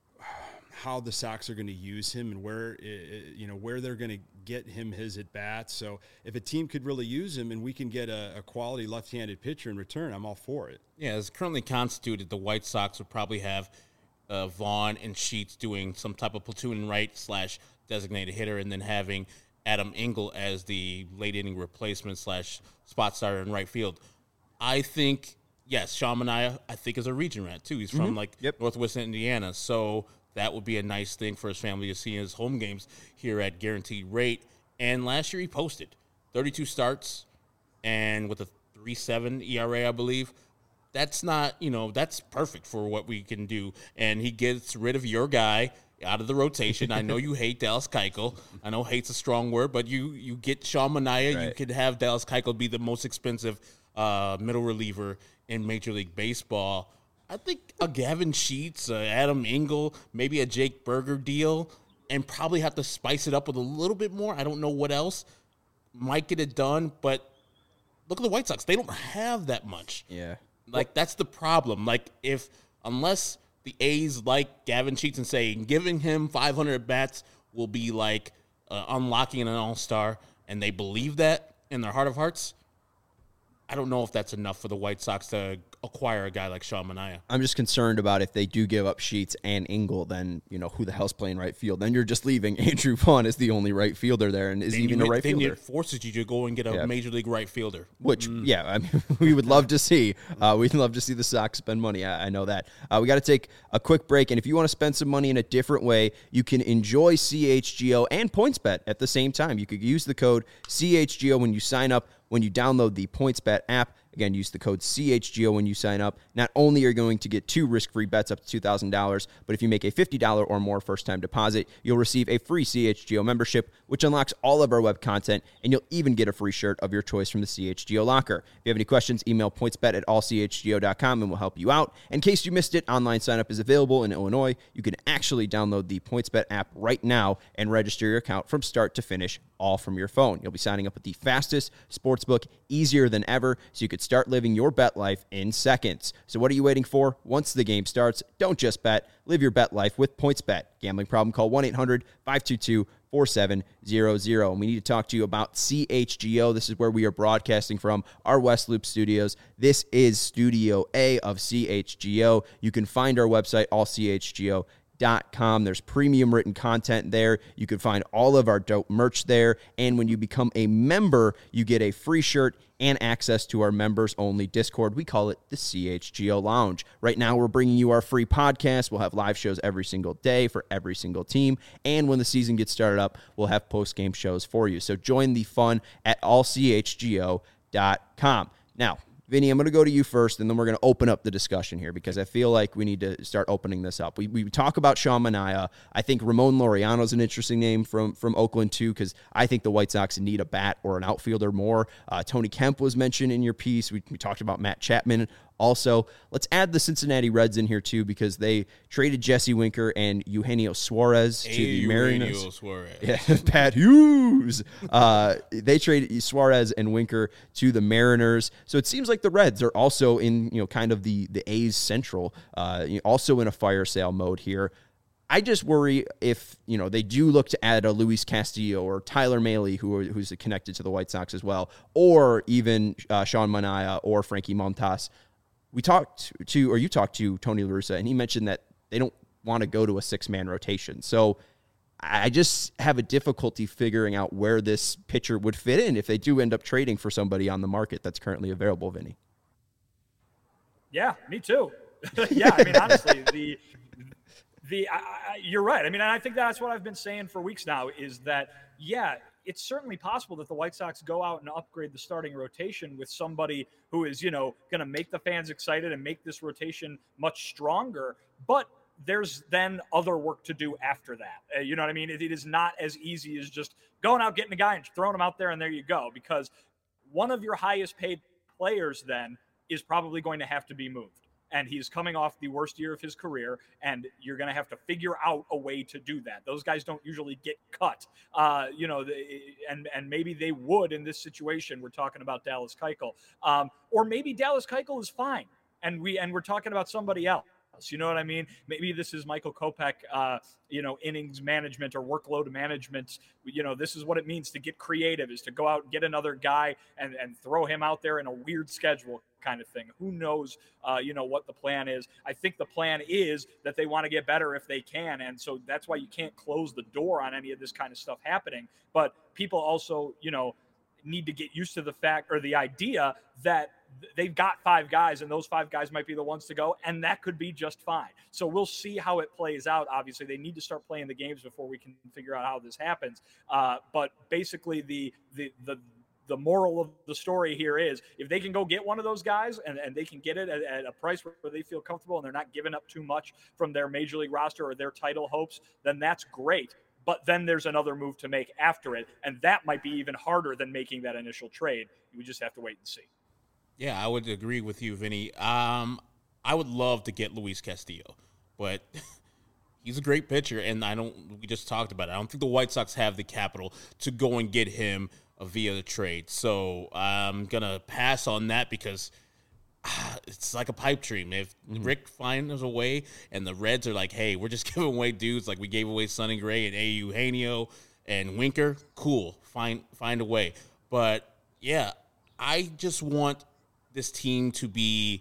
how the Sox are going to use him and where, you know, where they're going to get him his at bats. So if a team could really use him and we can get a, a quality left-handed pitcher in return, I'm all for it. Yeah, as currently constituted, the White Sox would probably have uh, Vaughn and Sheets doing some type of platoon right slash designated hitter, and then having Adam Engel as the late inning replacement slash spot starter in right field. I think, yes, Sean Manaea, I think, is a region rat too. He's from mm-hmm. like yep. Northwest Indiana, so that would be a nice thing for his family to see in his home games here at Guaranteed Rate. And last year he posted thirty-two starts and with a three point seven E R A, I believe. That's not, you know, that's perfect for what we can do. And he gets rid of your guy out of the rotation. I know you hate Dallas Keuchel. I know hate's a strong word, but you you get Sean Manaea. Right. You could have Dallas Keuchel be the most expensive uh, middle reliever in Major League Baseball. I think a Gavin Sheets, uh, Adam Engel, maybe a Jake Berger deal, and probably have to spice it up with a little bit more. I don't know what else might get it done, but look at the White Sox. They don't have that much. Yeah. Like, that's the problem. Like, if unless the A's like Gavin Sheets and say giving him five hundred at-bats will be like uh, unlocking an all-star, and they believe that in their heart of hearts, I don't know if that's enough for the White Sox to acquire a guy like Sean Manaea. I'm just concerned about if they do give up Sheets and Engel, then, you know, who the hell's playing right field? Then you're just leaving Andrew Vaughn as the only right fielder there, and is then even a right then fielder. Then it forces you to go and get a yeah. Major League right fielder. Which, mm. yeah, I mean, we would love to see. Uh, we'd love to see the Sox spend money. I, I know that. Uh, we got to take a quick break, and if you want to spend some money in a different way, you can enjoy C H G O and PointsBet at the same time. You could use the code C H G O when you sign up, when you download the PointsBet app. Again, use the code C H G O when you sign up. Not only are you going to get two risk-free bets up to two thousand dollars, but if you make a fifty dollars or more first-time deposit, you'll receive a free C H G O membership, which unlocks all of our web content, and you'll even get a free shirt of your choice from the C H G O locker. If you have any questions, email pointsbet at all c h g o dot com, and we'll help you out. In case you missed it, online sign-up is available in Illinois. You can actually download the PointsBet app right now and register your account from start to finish, all from your phone. You'll be signing up with the fastest sportsbook, easier than ever, so you could start living your bet life in seconds. So what are you waiting for? Once the game starts, don't just bet. Live your bet life with PointsBet. Gambling problem? Call one eight hundred five two two four seven zero zero. And we need to talk to you about C H G O. This is where we are broadcasting from, our West Loop studios. This is Studio A of C H G O. You can find our website, all c h g o dot com. There's premium written content there. You can find all of our dope merch there. And when you become a member, you get a free shirt and access to our members-only Discord. We call it the C H G O Lounge. Right now, we're bringing you our free podcast. We'll have live shows every single day for every single team. And when the season gets started up, we'll have post-game shows for you. So join the fun at all c h g o dot com. Now, Vinny, I'm going to go to you first, and then we're going to open up the discussion here because I feel like we need to start opening this up. We we talk about Sean Manaea. I think Ramon Laureano is an interesting name from, from Oakland, too, because I think the White Sox need a bat or an outfielder more. Uh, Tony Kemp was mentioned in your piece. We, we talked about Matt Chapman. Also, let's add the Cincinnati Reds in here, too, because they traded Jesse Winker and Eugenio Suarez to hey, the Mariners. Eugenio Suarez. Yeah, Pat Hughes. Uh, they traded Suarez and Winker to the Mariners. So it seems like the Reds are also in, you know, kind of the, the A's central, uh, also in a fire sale mode here. I just worry if, you know, they do look to add a Luis Castillo or Tyler Mahle, who are, who's connected to the White Sox as well, or even uh, Sean Manaea or Frankie Montas. We talked to, or you talked to Tony La Russa, and he mentioned that they don't want to go to a six-man rotation. So I just have a difficulty figuring out where this pitcher would fit in if they do end up trading for somebody on the market that's currently available, Vinny. Yeah, me too. yeah, I mean, honestly, the the I, I, you're right. I mean, and I think that's what I've been saying for weeks now is that, yeah, it's certainly possible that the White Sox go out and upgrade the starting rotation with somebody who is, you know, going to make the fans excited and make this rotation much stronger. But there's then other work to do after that. Uh, you know what I mean? It, it is not as easy as just going out, getting a guy and throwing him out there and there you go. Because one of your highest paid players then is probably going to have to be moved. and he's coming off the worst year of his career, and you're going to have to figure out a way to do that. Those guys don't usually get cut, uh, you know, the, and and maybe they would in this situation. We're talking about Dallas Keuchel, um, or maybe Dallas Keuchel is fine, and we and we're talking about somebody else. You know what I mean? Maybe this is Michael Kopech, uh, you know, innings management or workload management. You know, this is what it means to get creative, is to go out and get another guy and, and throw him out there in a weird schedule kind of thing. Who knows, uh, you know, what the plan is. I think the plan is that they want to get better if they can. And so that's why you can't close the door on any of this kind of stuff happening. But people also, you know, need to get used to the fact or the idea that they've got five guys and those five guys might be the ones to go, and that could be just fine. So we'll see how it plays out. Obviously they need to start playing the games before we can figure out how this happens. Uh, but basically the, the, the, the moral of the story here is if they can go get one of those guys and, and they can get it at, at a price where they feel comfortable and they're not giving up too much from their major league roster or their title hopes, then that's great. But then there's another move to make after it, and that might be even harder than making that initial trade. We just have to wait and see. Yeah, I would agree with you, Vinny. Um, I would love to get Luis Castillo, but he's a great pitcher, and I don't. We just talked about it. I don't think the White Sox have the capital to go and get him uh, via the trade. So I'm gonna pass on that because ah, it's like a pipe dream. If mm-hmm. Rick finds a way, and the Reds are like, "Hey, we're just giving away dudes like we gave away Sonny Gray and Eugenio and Winker," cool. Find find a way. But yeah, I just want this team to be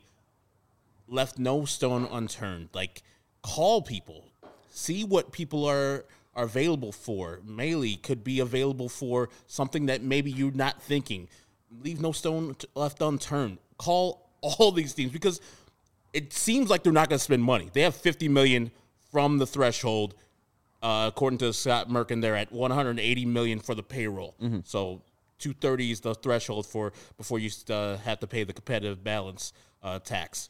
left no stone unturned. Like, call people, see what people are are available for. Maile could be available for something that maybe you're not thinking. Leave no stone left unturned. Call all these teams because it seems like they're not going to spend money. They have fifty million dollars from the threshold. Uh, according to Scott Merkin, they're at one hundred eighty million dollars for the payroll. Mm-hmm. So two hundred thirty is the threshold for before you uh, have to pay the competitive balance uh, tax.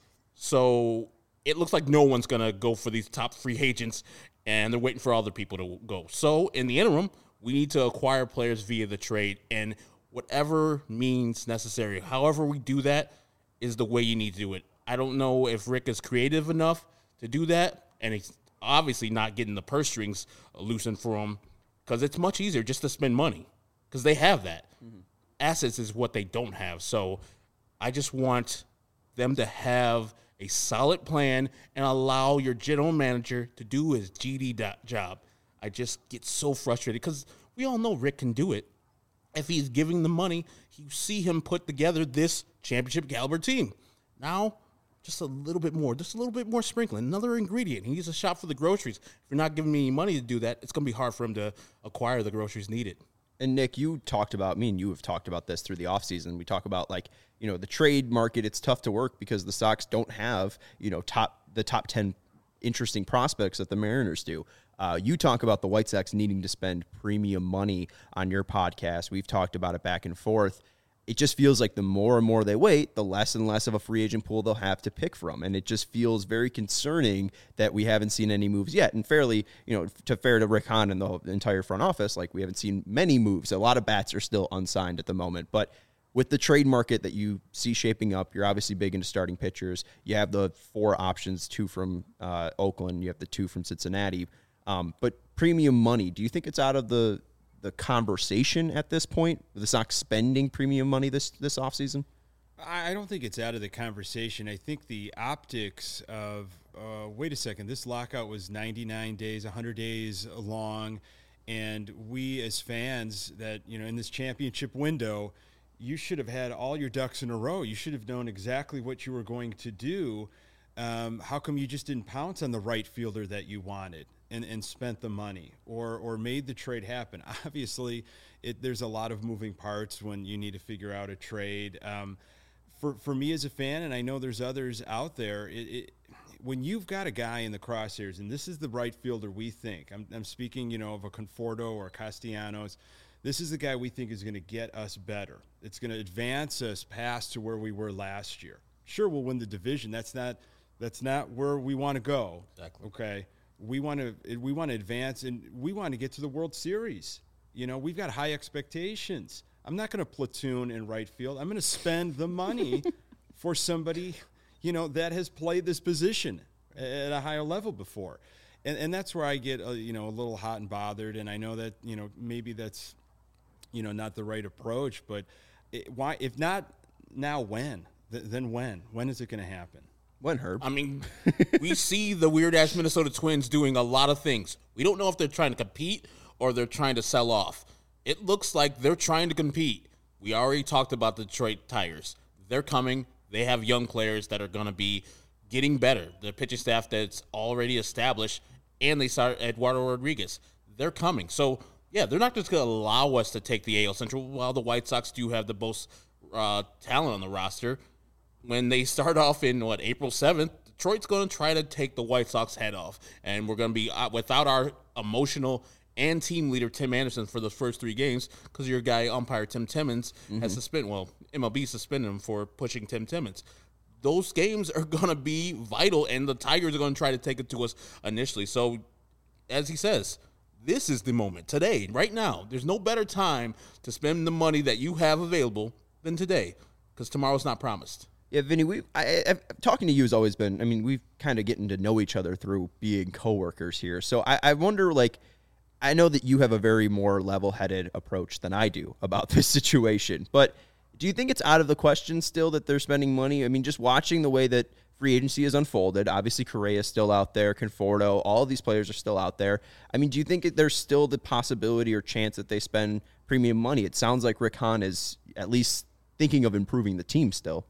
So it looks like no one's going to go for these top free agents, and they're waiting for other people to go. So in the interim, we need to acquire players via the trade, and whatever means necessary, however we do that, is the way you need to do it. I don't know if Rick is creative enough to do that, and he's obviously not getting the purse strings loosened for him because it's much easier just to spend money because they have that. Mm-hmm. Assets is what they don't have. So I just want them to have a solid plan and allow your general manager to do his G D job. I just get so frustrated because we all know Rick can do it. If he's giving the money, you see him put together this championship caliber team. Now, just a little bit more, just a little bit more sprinkling, another ingredient. He needs a shop for the groceries. If you're not giving me any money to do that, it's going to be hard for him to acquire the groceries needed. And Nick, you talked about, me and you have talked about this through the offseason. We talk about, like, you know, the trade market, it's tough to work because the Sox don't have, you know, top the top ten interesting prospects that the Mariners do. Uh, you talk about the White Sox needing to spend premium money on your podcast. We've talked about it back and forth. It just feels like the more and more they wait, the less and less of a free agent pool they'll have to pick from. And it just feels very concerning that we haven't seen any moves yet. And fairly, you know, to fair to Rick Hahn and the entire front office, like, we haven't seen many moves. A lot of bats are still unsigned at the moment. But with the trade market that you see shaping up, you're obviously big into starting pitchers. You have the four options, two from uh, Oakland. You have the two from Cincinnati. Um, but premium money, do you think it's out of the the conversation at this point? The Sox spending premium money this this offseason? I don't think it's out of the conversation. I think the optics of, uh, wait a second, this lockout was ninety-nine days, one hundred days long, and we as fans that, you know, in this championship window, you should have had all your ducks in a row. You should have known exactly what you were going to do. Um, how come you just didn't pounce on the right fielder that you wanted and, and spent the money or or made the trade happen? Obviously, it, there's a lot of moving parts when you need to figure out a trade. Um, for for me as a fan, and I know there's others out there, it, it, when you've got a guy in the crosshairs, and this is the right fielder we think, I'm, I'm speaking, you know, of a Conforto or a Castellanos, this is the guy we think is going to get us better. It's going to advance us past to where we were last year. Sure, we'll win the division. That's not that's not where we want to go. Exactly. Okay, we want to we want to advance, and we want to get to the World Series. You know, we've got high expectations. I'm not going to platoon in right field. I'm going to spend the money for somebody, you know, that has played this position at a higher level before. And and that's where I get, uh, you know, a little hot and bothered. And I know that, you know, maybe that's, you know, not the right approach. But it, why, if not now, when? Th- then when? When is it going to happen? When, Herb? I mean, we see the weird-ass Minnesota Twins doing a lot of things. We don't know if they're trying to compete or they're trying to sell off. It looks like they're trying to compete. We already talked about the Detroit Tigers. They're coming. They have young players that are going to be getting better. The pitching staff that's already established, and they start Eduardo Rodriguez. They're coming. So, yeah, they're not just going to allow us to take the A L Central while the White Sox do have the most uh, talent on the roster. When they start off in, what, April seventh, Detroit's going to try to take the White Sox head off. And we're going to be uh, without our emotional and team leader, Tim Anderson, for the first three games because your guy, umpire Tim Timmons, mm-hmm. has suspended, well, M L B suspended him for pushing Tim Timmons. Those games are going to be vital, and the Tigers are going to try to take it to us initially. So, as he says, this is the moment. Today, right now, there's no better time to spend the money that you have available than today because tomorrow's not promised. Yeah, Vinny, we I, I, talking to you has always been, I mean, we've kind of getting to know each other through being coworkers here. So I, I wonder, like, I know that you have a very more level-headed approach than I do about this situation, but do you think it's out of the question still that they're spending money? I mean, just watching the way that free agency has unfolded, obviously Correa is still out there, Conforto, all of these players are still out there. I mean, do you think there's still the possibility or chance that they spend premium money? It sounds like Rick Hahn is at least thinking of improving the team still.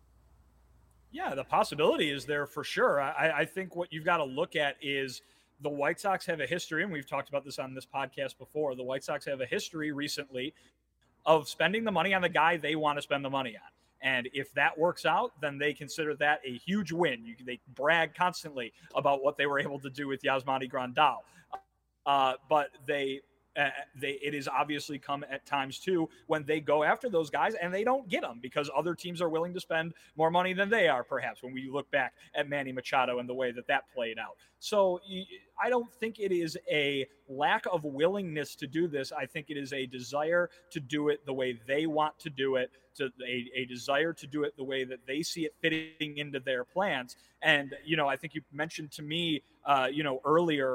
Yeah, the possibility is there for sure. I, I think what you've got to look at is the White Sox have a history, and we've talked about this on this podcast before. The White Sox have a history recently of spending the money on the guy they want to spend the money on. And if that works out, then they consider that a huge win. You, they brag constantly about what they were able to do with Yasmani Grandal. Uh, but they... Uh, they it is obviously come at times too when they go after those guys and they don't get them because other teams are willing to spend more money than they are, perhaps, when we look back at Manny Machado and the way that that played out. So I don't think it is a lack of willingness to do this. I think it is a desire to do it the way they want to do it, to a, a desire to do it the way that they see it fitting into their plans. And, you know, I think you mentioned to me, uh, you know, earlier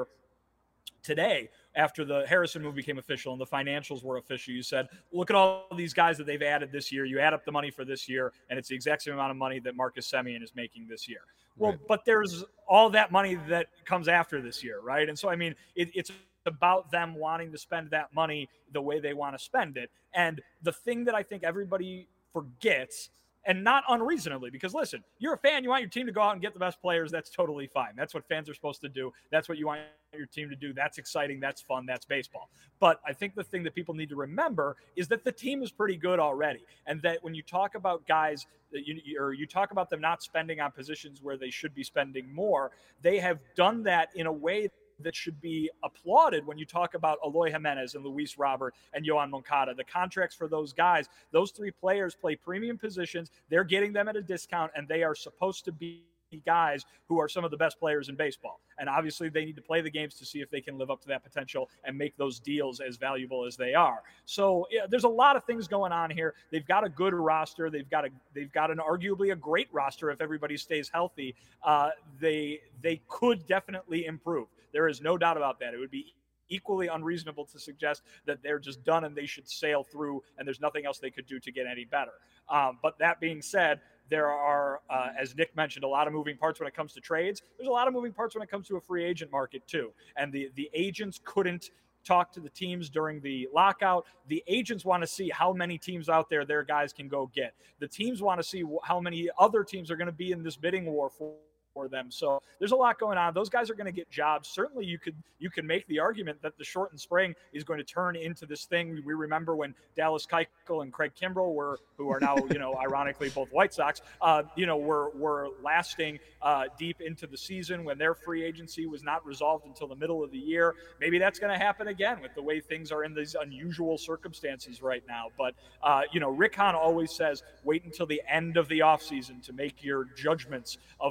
today, after the Harrison move became official and the financials were official, you said, look at all these guys that they've added this year. You add up the money for this year, and it's the exact same amount of money that Marcus Semien is making this year. Well, right. But there's all that money that comes after this year, right? And so, I mean, it, it's about them wanting to spend that money the way they want to spend it. And the thing that I think everybody forgets, and not unreasonably, because listen, you're a fan, you want your team to go out and get the best players, that's totally fine. That's what fans are supposed to do. That's what you want your team to do. That's exciting, that's fun, that's baseball. But I think the thing that people need to remember is that the team is pretty good already. And that when you talk about guys, that you, or you talk about them not spending on positions where they should be spending more, they have done that in a way that should be applauded when you talk about Eloy Jimenez and Luis Robert and Yohan Moncada. The contracts for those guys, those three players play premium positions. They're getting them at a discount, and they are supposed to be guys who are some of the best players in baseball. And obviously they need to play the games to see if they can live up to that potential and make those deals as valuable as they are. So yeah, there's a lot of things going on here. They've got a good roster. They've got a, they've got an arguably a great roster. If everybody stays healthy, uh, they, they could definitely improve. There is no doubt about that. It would be equally unreasonable to suggest that they're just done and they should sail through and there's nothing else they could do to get any better. Um, but that being said, there are, uh, as Nick mentioned, a lot of moving parts when it comes to trades. There's a lot of moving parts when it comes to a free agent market too. And the, the agents couldn't talk to the teams during the lockout. The agents want to see how many teams out there their guys can go get. The teams want to see how many other teams are going to be in this bidding war for for them. So there's a lot going on. Those guys are going to get jobs. Certainly you could you can make the argument that the shortened spring is going to turn into this thing. We remember when Dallas Keuchel and Craig Kimbrell were, who are now, you know, ironically both White Sox, uh, you know, were were lasting uh, deep into the season when their free agency was not resolved until the middle of the year. Maybe that's going to happen again with the way things are in these unusual circumstances right now. But, uh, you know, Rick Hahn always says, wait until the end of the offseason to make your judgments of what he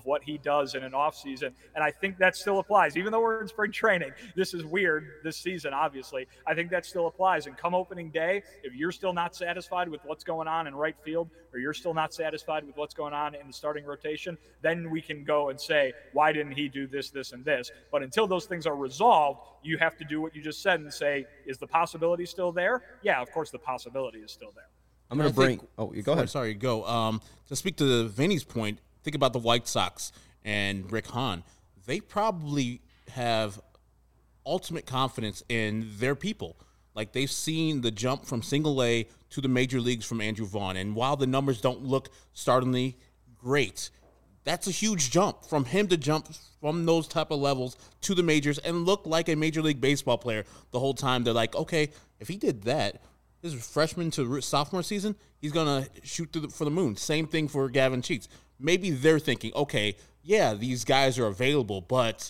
does in an offseason. And I think that still applies. Even though we're in spring training, this is weird this season, obviously. I think that still applies. And come opening day, if you're still not satisfied with what's going on in right field, or you're still not satisfied with what's going on in the starting rotation, then we can go and say, why didn't he do this, this, and this? But until those things are resolved, you have to do what you just said and say, is the possibility still there? Yeah, of course the possibility is still there. I'm going to bring – oh, you go ahead. Sorry, go. Um, to speak to Vinny's point, think about the White Sox and Rick Hahn. They probably have ultimate confidence in their people. Like, they've seen the jump from single A to the major leagues from Andrew Vaughn. And while the numbers don't look startlingly great, that's a huge jump from him to jump from those type of levels to the majors and look like a Major League Baseball player the whole time. They're like, okay, if he did that – his freshman to sophomore season, he's going to shoot through the, for the moon. Same thing for Gavin Sheets. Maybe they're thinking, okay, yeah, these guys are available, but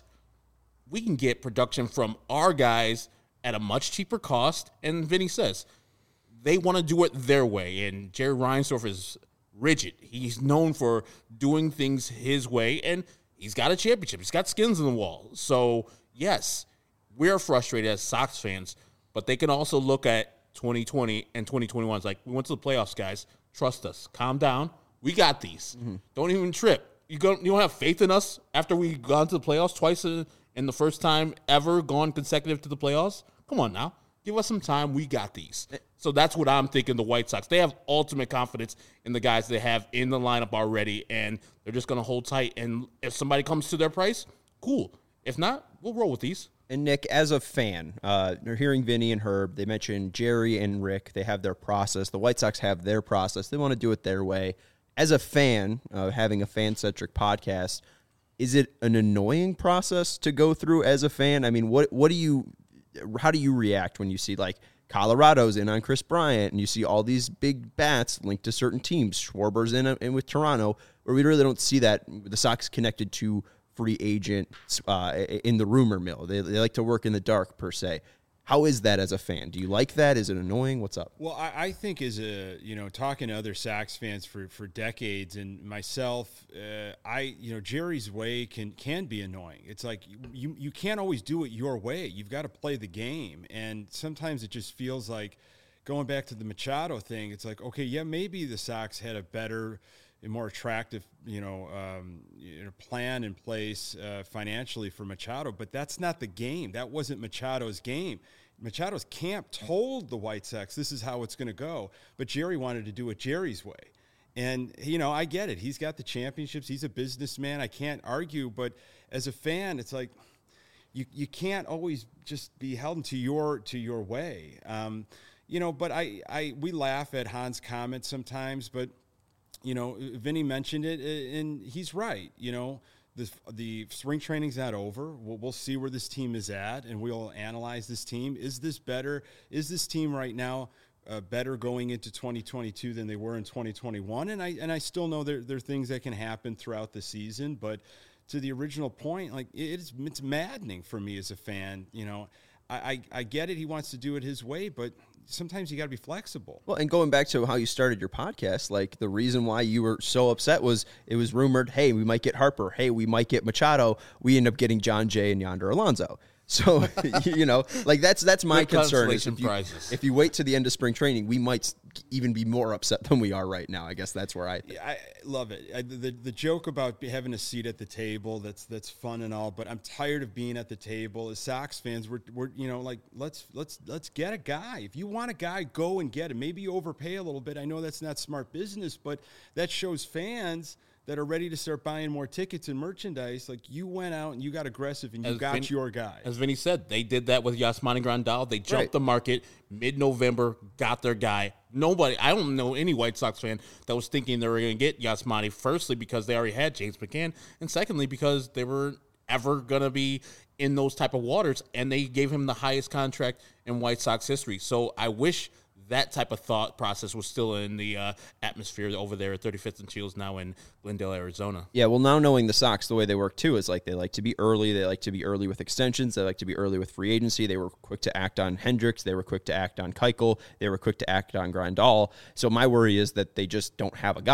we can get production from our guys at a much cheaper cost. And Vinny says they want to do it their way. And Jerry Reinsdorf is rigid. He's known for doing things his way, and he's got a championship. He's got skins in the wall. So, yes, we're frustrated as Sox fans, but they can also look at twenty twenty and twenty twenty-one. It's like, we went to the playoffs, guys. Trust us. Calm down. We got these. Mm-hmm. Don't even trip. You, go, you don't have faith in us after we gone to the playoffs twice in, in the first time ever gone consecutive to the playoffs? Come on now. Give us some time. We got these. So that's what I'm thinking the White Sox. They have ultimate confidence in the guys they have in the lineup already, and they're just going to hold tight. And if somebody comes to their price, cool. If not, we'll roll with these. And Nick, as a fan, uh, you're hearing Vinny and Herb. They mentioned Jerry and Rick. They have their process. The White Sox have their process. They want to do it their way. As a fan, uh, having a fan-centric podcast, is it an annoying process to go through as a fan? I mean, what what do you, how do you react when you see like Colorado's in on Chris Bryant and you see all these big bats linked to certain teams? Schwarber's in, a, in with Toronto, where we really don't see that. The Sox connected to free agent uh, in the rumor mill. They, they like to work in the dark, per se. How is that as a fan? Do you like that? Is it annoying? What's up? Well, I, I think as a, you know, talking to other Sox fans for, for decades and myself, uh, I, you know, Jerry's way can, can be annoying. It's like you, you can't always do it your way. You've got to play the game. And sometimes it just feels like, going back to the Machado thing, it's like, okay, yeah, maybe the Sox had a better a more attractive, you know, um, you know, plan in place uh, financially for Machado, but that's not the game. That wasn't Machado's game. Machado's camp told the White Sox this is how it's going to go, but Jerry wanted to do it Jerry's way. And, you know, I get it. He's got the championships. He's a businessman. I can't argue, but as a fan, it's like you you can't always just be held to your to your way. Um, you know, but I, I we laugh at Han's comments sometimes, but you know, Vinny mentioned it, and he's right. You know, the the spring training's not over. We'll, we'll see where this team is at, and we'll analyze this team. Is this better? Is this team right now uh, better going into twenty twenty-two than they were in twenty twenty-one? And I and I still know there there are things that can happen throughout the season, but to the original point, like it's it's maddening for me as a fan. You know, I I, I get it. He wants to do it his way, but sometimes you got to be flexible. Well, and going back to how you started your podcast, like the reason why you were so upset was it was rumored, hey, we might get Harper. Hey, we might get Machado. We end up getting John Jay and Yonder Alonso. So, you know, like that's that's my Good concern. Is if, you, prizes. if you wait to the end of spring training, we might even be more upset than we are right now. I guess that's where I think. Yeah, I love it. I, the the joke about having a seat at the table, that's that's fun and all, but I'm tired of being at the table. As Sox fans, we're we're you know, like let's let's let's get a guy. If you want a guy, go and get him. Maybe you overpay a little bit. I know that's not smart business, but that shows fans that are ready to start buying more tickets and merchandise. Like you went out and you got aggressive and you as got Vin, your guy. As Vinny said, they did that with Yasmani Grandal. They jumped right. the market mid-November, got their guy. Nobody, I don't know any White Sox fan that was thinking they were going to get Yasmani, firstly because they already had James McCann, and secondly because they were ever going to be in those type of waters, and they gave him the highest contract in White Sox history. So I wish that type of thought process was still in the uh, atmosphere over there at thirty-fifth and Shields, now in Glendale, Arizona. Yeah, well, now knowing the Sox, the way they work too is like they like to be early. They like to be early with extensions. They like to be early with free agency. They were quick to act on Hendricks. They were quick to act on Keuchel. They were quick to act on Grandal. So my worry is that they just don't have a guy.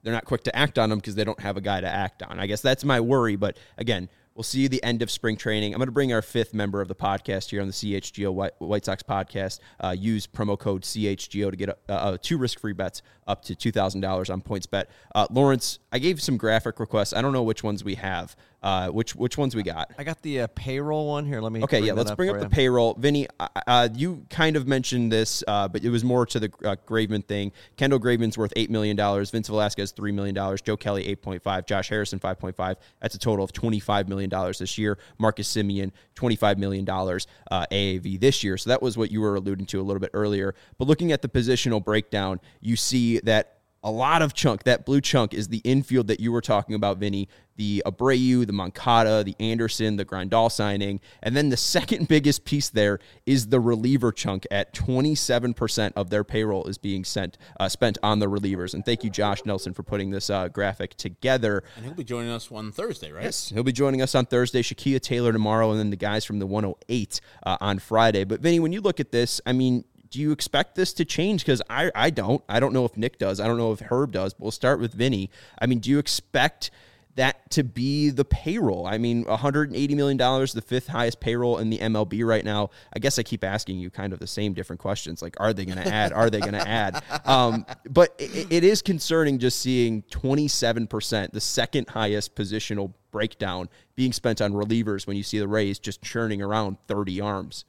they're not quick to act on them because they don't have a guy to act on. I guess that's my worry. But again, we'll see you the end of spring training. I'm going to bring our fifth member of the podcast here on the C H G O White, White Sox podcast. Uh, use promo code C H G O to get uh, uh, two risk-free bets up to two thousand dollars on PointsBet. Uh, Lawrence, I gave some graphic requests. I don't know which ones we have. Uh, which which ones we got? I got the uh, payroll one here. Let me. Okay, yeah, let's bring up you. the payroll. Vinny, uh, uh, you kind of mentioned this, uh, but it was more to the uh, Graveman thing. Kendall Graveman's worth eight million dollars. Vince Velasquez, three million dollars. Joe Kelly, eight point five. Josh Harrison, five point five. That's a total of twenty-five million dollars this year. Marcus Semien, twenty-five million dollars uh, A A V this year. So that was what you were alluding to a little bit earlier. But looking at the positional breakdown, you see that a lot of chunk, that blue chunk is the infield that you were talking about, Vinny, the Abreu, the Moncada, the Anderson, the Grandal signing. And then the second biggest piece there is the reliever chunk at twenty-seven percent of their payroll is being sent uh, spent on the relievers. And thank you, Josh Nelson, for putting this uh, graphic together. And he'll be joining us on Thursday, right? Yes, he'll be joining us on Thursday, Shakia Taylor tomorrow, and then the guys from the one oh eight uh, on Friday. But Vinny, when you look at this, I mean, do you expect this to change? Because I, I don't. I don't know if Nick does. I don't know if Herb does. But we'll start with Vinny. I mean, do you expect that to be the payroll? I mean, one hundred eighty million dollars, the fifth highest payroll in the M L B right now. I guess I keep asking you kind of the same different questions. Like, are they going to add? Are they going to add? Um, but it, it is concerning just seeing twenty-seven percent, the second highest positional breakdown, being spent on relievers when you see the Rays just churning around thirty arms.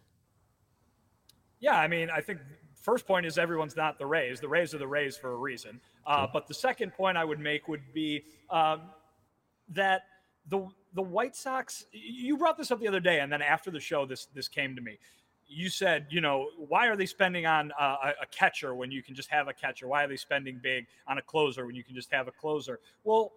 Yeah, I mean, I think first point is everyone's not the Rays. The Rays are the Rays for a reason. Uh, but the second point I would make would be um, that the the White Sox, you brought this up the other day, and then after the show, this this came to me. You said, you know, why are they spending on uh, a, a catcher when you can just have a catcher? Why are they spending big on a closer when you can just have a closer? Well,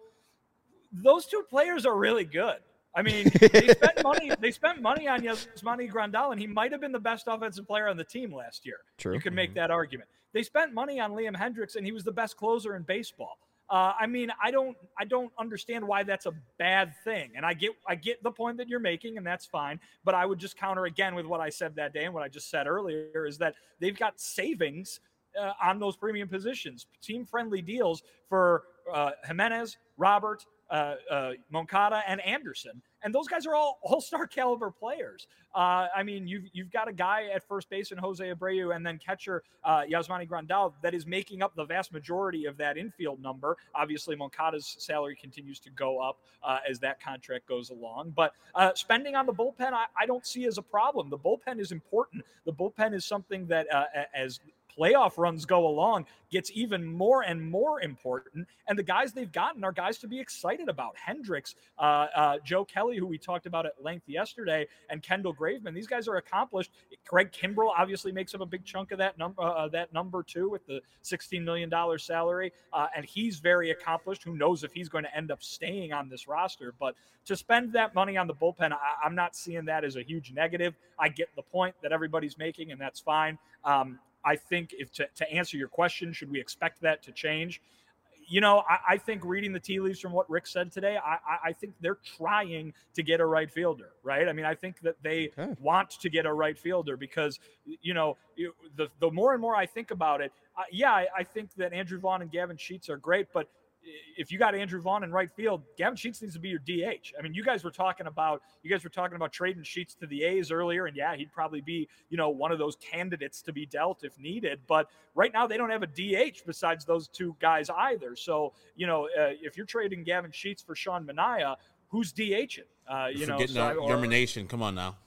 those two players are really good. I mean, they spent money. They spent money on Yasmani Grandal, and he might have been the best offensive player on the team last year. True. You could make that argument. They spent money on Liam Hendriks, and he was the best closer in baseball. Uh, I mean, I don't, I don't understand why that's a bad thing. And I get, I get the point that you're making, and that's fine. But I would just counter again with what I said that day and what I just said earlier is that they've got savings uh, on those premium positions, team-friendly deals for uh, Jimenez, Robert, Uh, uh, Moncada, and Anderson. And those guys are all all-star caliber players. Uh, I mean, you've, you've got a guy at first base in Jose Abreu and then catcher uh, Yasmani Grandal that is making up the vast majority of that infield number. Obviously, Moncada's salary continues to go up uh, as that contract goes along. But uh, spending on the bullpen, I, I don't see as a problem. The bullpen is important. The bullpen is something that uh, as playoff runs go along, gets even more and more important. And the guys they've gotten are guys to be excited about. Hendricks, uh, uh, Joe Kelly, who we talked about at length yesterday, and Kendall Graveman. These guys are accomplished. Greg Kimbrell obviously makes up a big chunk of that number, uh, that number too, with the sixteen million dollars salary. Uh, and he's very accomplished. Who knows if he's going to end up staying on this roster? But to spend that money on the bullpen, I, I'm not seeing that as a huge negative. I get the point that everybody's making, and that's fine. Um, I think if to, to answer your question, should we expect that to change? You know, I, I think reading the tea leaves from what Rick said today, I, I think they're trying to get a right fielder, right? I mean, I think that they okay. want to get a right fielder because, you know, the, the more and more I think about it, uh, yeah, I, I think that Andrew Vaughn and Gavin Sheets are great, but if you got Andrew Vaughn in right field, Gavin Sheets needs to be your D H. I mean, you guys were talking about you guys were talking about trading Sheets to the A's earlier, and yeah, he'd probably be, you know, one of those candidates to be dealt if needed. But right now, they don't have a D H besides those two guys either. So, you know, uh, if you're trading Gavin Sheets for Sean Manaea, who's DHing? Uh, you you're know, forgetting so, our or, Yermination. Come on now.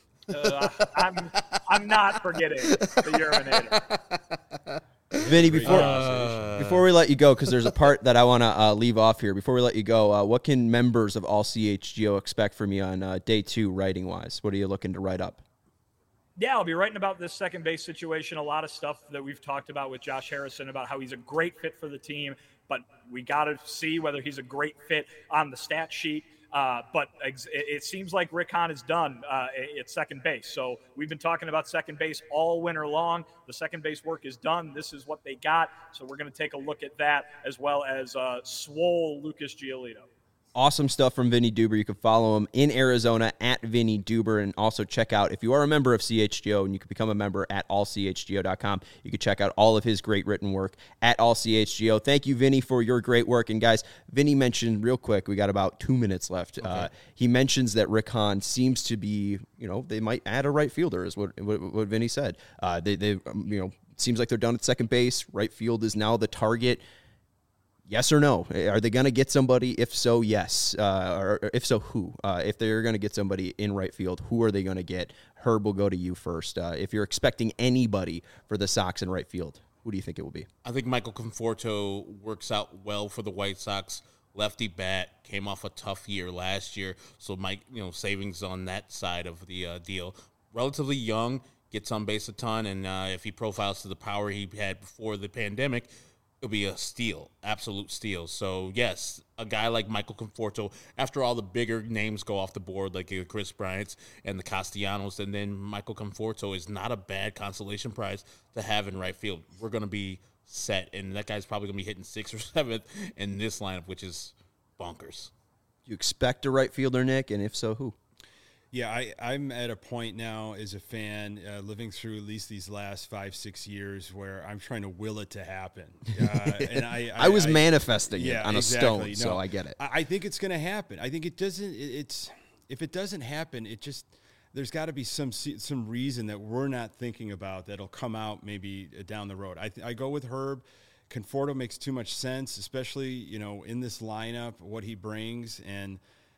Uh, I'm I'm not forgetting the Yerminator. Vinny, before uh, before we let you go, because there's a part that I want to uh, leave off here. Before we let you go, uh, what can members of All C H G O expect from you on uh, day two, writing-wise? What are you looking to write up? Yeah, I'll be writing about this second base situation. A lot of stuff that we've talked about with Josh Harrison about how he's a great fit for the team, but we got to see whether he's a great fit on the stat sheet. Uh, but ex- it seems like Rick Hahn is done uh, at second base. So we've been talking about second base all winter long. The second base work is done. This is what they got. So we're going to take a look at that as well as uh, swole Lucas Giolito. Awesome stuff from Vinny Duber. You can follow him in Arizona at Vinny Duber, and also check out, if you are a member of C H G O and you can become a member at all c h g o dot com, you can check out all of his great written work at all c h g o. Thank you, Vinny, for your great work. And guys, Vinny mentioned real quick, we got about two minutes left. Okay. Uh, he mentions that Rick Hahn seems to be, you know, they might add a right fielder, is what what, what Vinny said. Uh, they, they, um, you know, seems like they're done at second base. Right field is now the target. Yes or no? Are they going to get somebody? If so, yes. Uh, or, or if so, who? Uh, if they're going to get somebody in right field, who are they going to get? Herb, will go to you first. Uh, if you're expecting anybody for the Sox in right field, who do you think it will be? I think Michael Conforto works out well for the White Sox. Lefty bat, came off a tough year last year, so Mike, you know, savings on that side of the uh, deal. Relatively young, gets on base a ton, and uh, if he profiles to the power he had before the pandemic, it'll be a steal, absolute steal. So, yes, a guy like Michael Conforto, after all the bigger names go off the board, like the Chris Bryants and the Castellanos, and then Michael Conforto is not a bad consolation prize to have in right field. We're going to be set, and that guy's probably going to be hitting sixth or seventh in this lineup, which is bonkers. Do you expect a right fielder, Nick, and if so, who? Yeah, I, I'm at a point now as a fan, uh, living through at least these last five, six years, where I'm trying to will it to happen. Uh, and I, I, I was I, manifesting yeah, it on exactly. a stone, no, so I get it. I, I think it's going to happen. I think it doesn't. It, it's if it doesn't happen, it just there's got to be some some reason that we're not thinking about that'll come out maybe down the road. I I go with Herb. Conforto makes too much sense, especially you know in this lineup, what he brings and.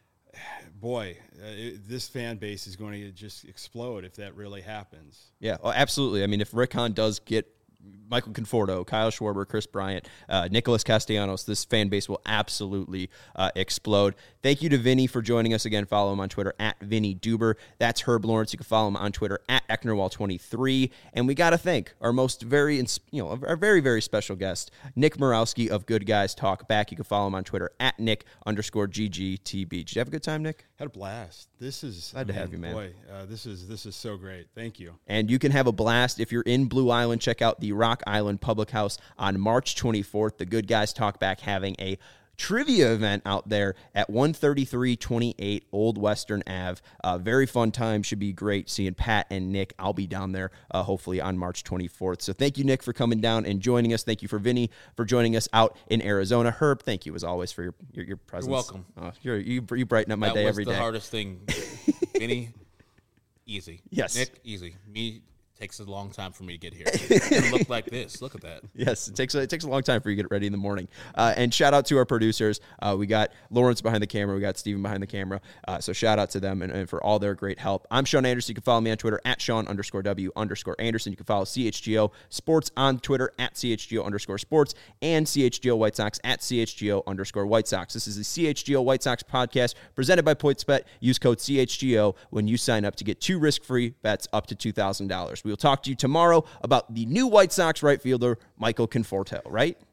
Boy, uh, it, this fan base is going to just explode if that really happens. Yeah, well, absolutely. I mean, if Rick Hahn does get Michael Conforto, Kyle Schwarber, Chris Bryant, uh, Nicholas Castellanos, this fan base will absolutely uh, explode. Thank you to Vinny for joining us again. Follow him on Twitter at Vinny Duber. That's Herb Lawrence. You can follow him on Twitter at Ecknerwall twenty-three. And we got to thank our most very, you know, our very, very special guest, Nick Morawski of Good Guys Talk Back. You can follow him on Twitter at Nick underscore G G T B. Did you have a good time, Nick? Had a blast. This is glad I mean, to have you, man. Boy, uh, this is this is so great. Thank you. And you can have a blast if you're in Blue Island. Check out the Rock Island Public House on March twenty-fourth. The Good Guys Talk Back having a trivia event out there at one thirty-three twenty-eight Old Western Avenue. Uh, very fun time. Should be great seeing Pat and Nick. I'll be down there uh, hopefully on March twenty-fourth. So thank you, Nick, for coming down and joining us. Thank you for Vinny for joining us out in Arizona. Herb, thank you as always for your your, your presence. You're welcome. Uh, you're, you you brighten up my that day was every the day. The hardest thing, Vinny. Easy. Yes. Nick, easy. Me. Takes a long time for me to get here. It look like this. Look at that. Yes, it takes a, it takes a long time for you to get ready in the morning. Uh, and shout out to our producers. Uh, we got Lawrence behind the camera. We got Steven behind the camera. Uh, so shout out to them and, and for all their great help. I'm Sean Anderson. You can follow me on Twitter at Sean underscore W underscore Anderson. You can follow C H G O Sports on Twitter at C H G O underscore Sports and C H G O White Sox at C H G O underscore White Sox. This is the C H G O White Sox podcast presented by PointsBet. Use code C H G O when you sign up to get two risk-free bets up to two thousand dollars. We will talk to you tomorrow about the new White Sox right fielder, Michael Conforto, right?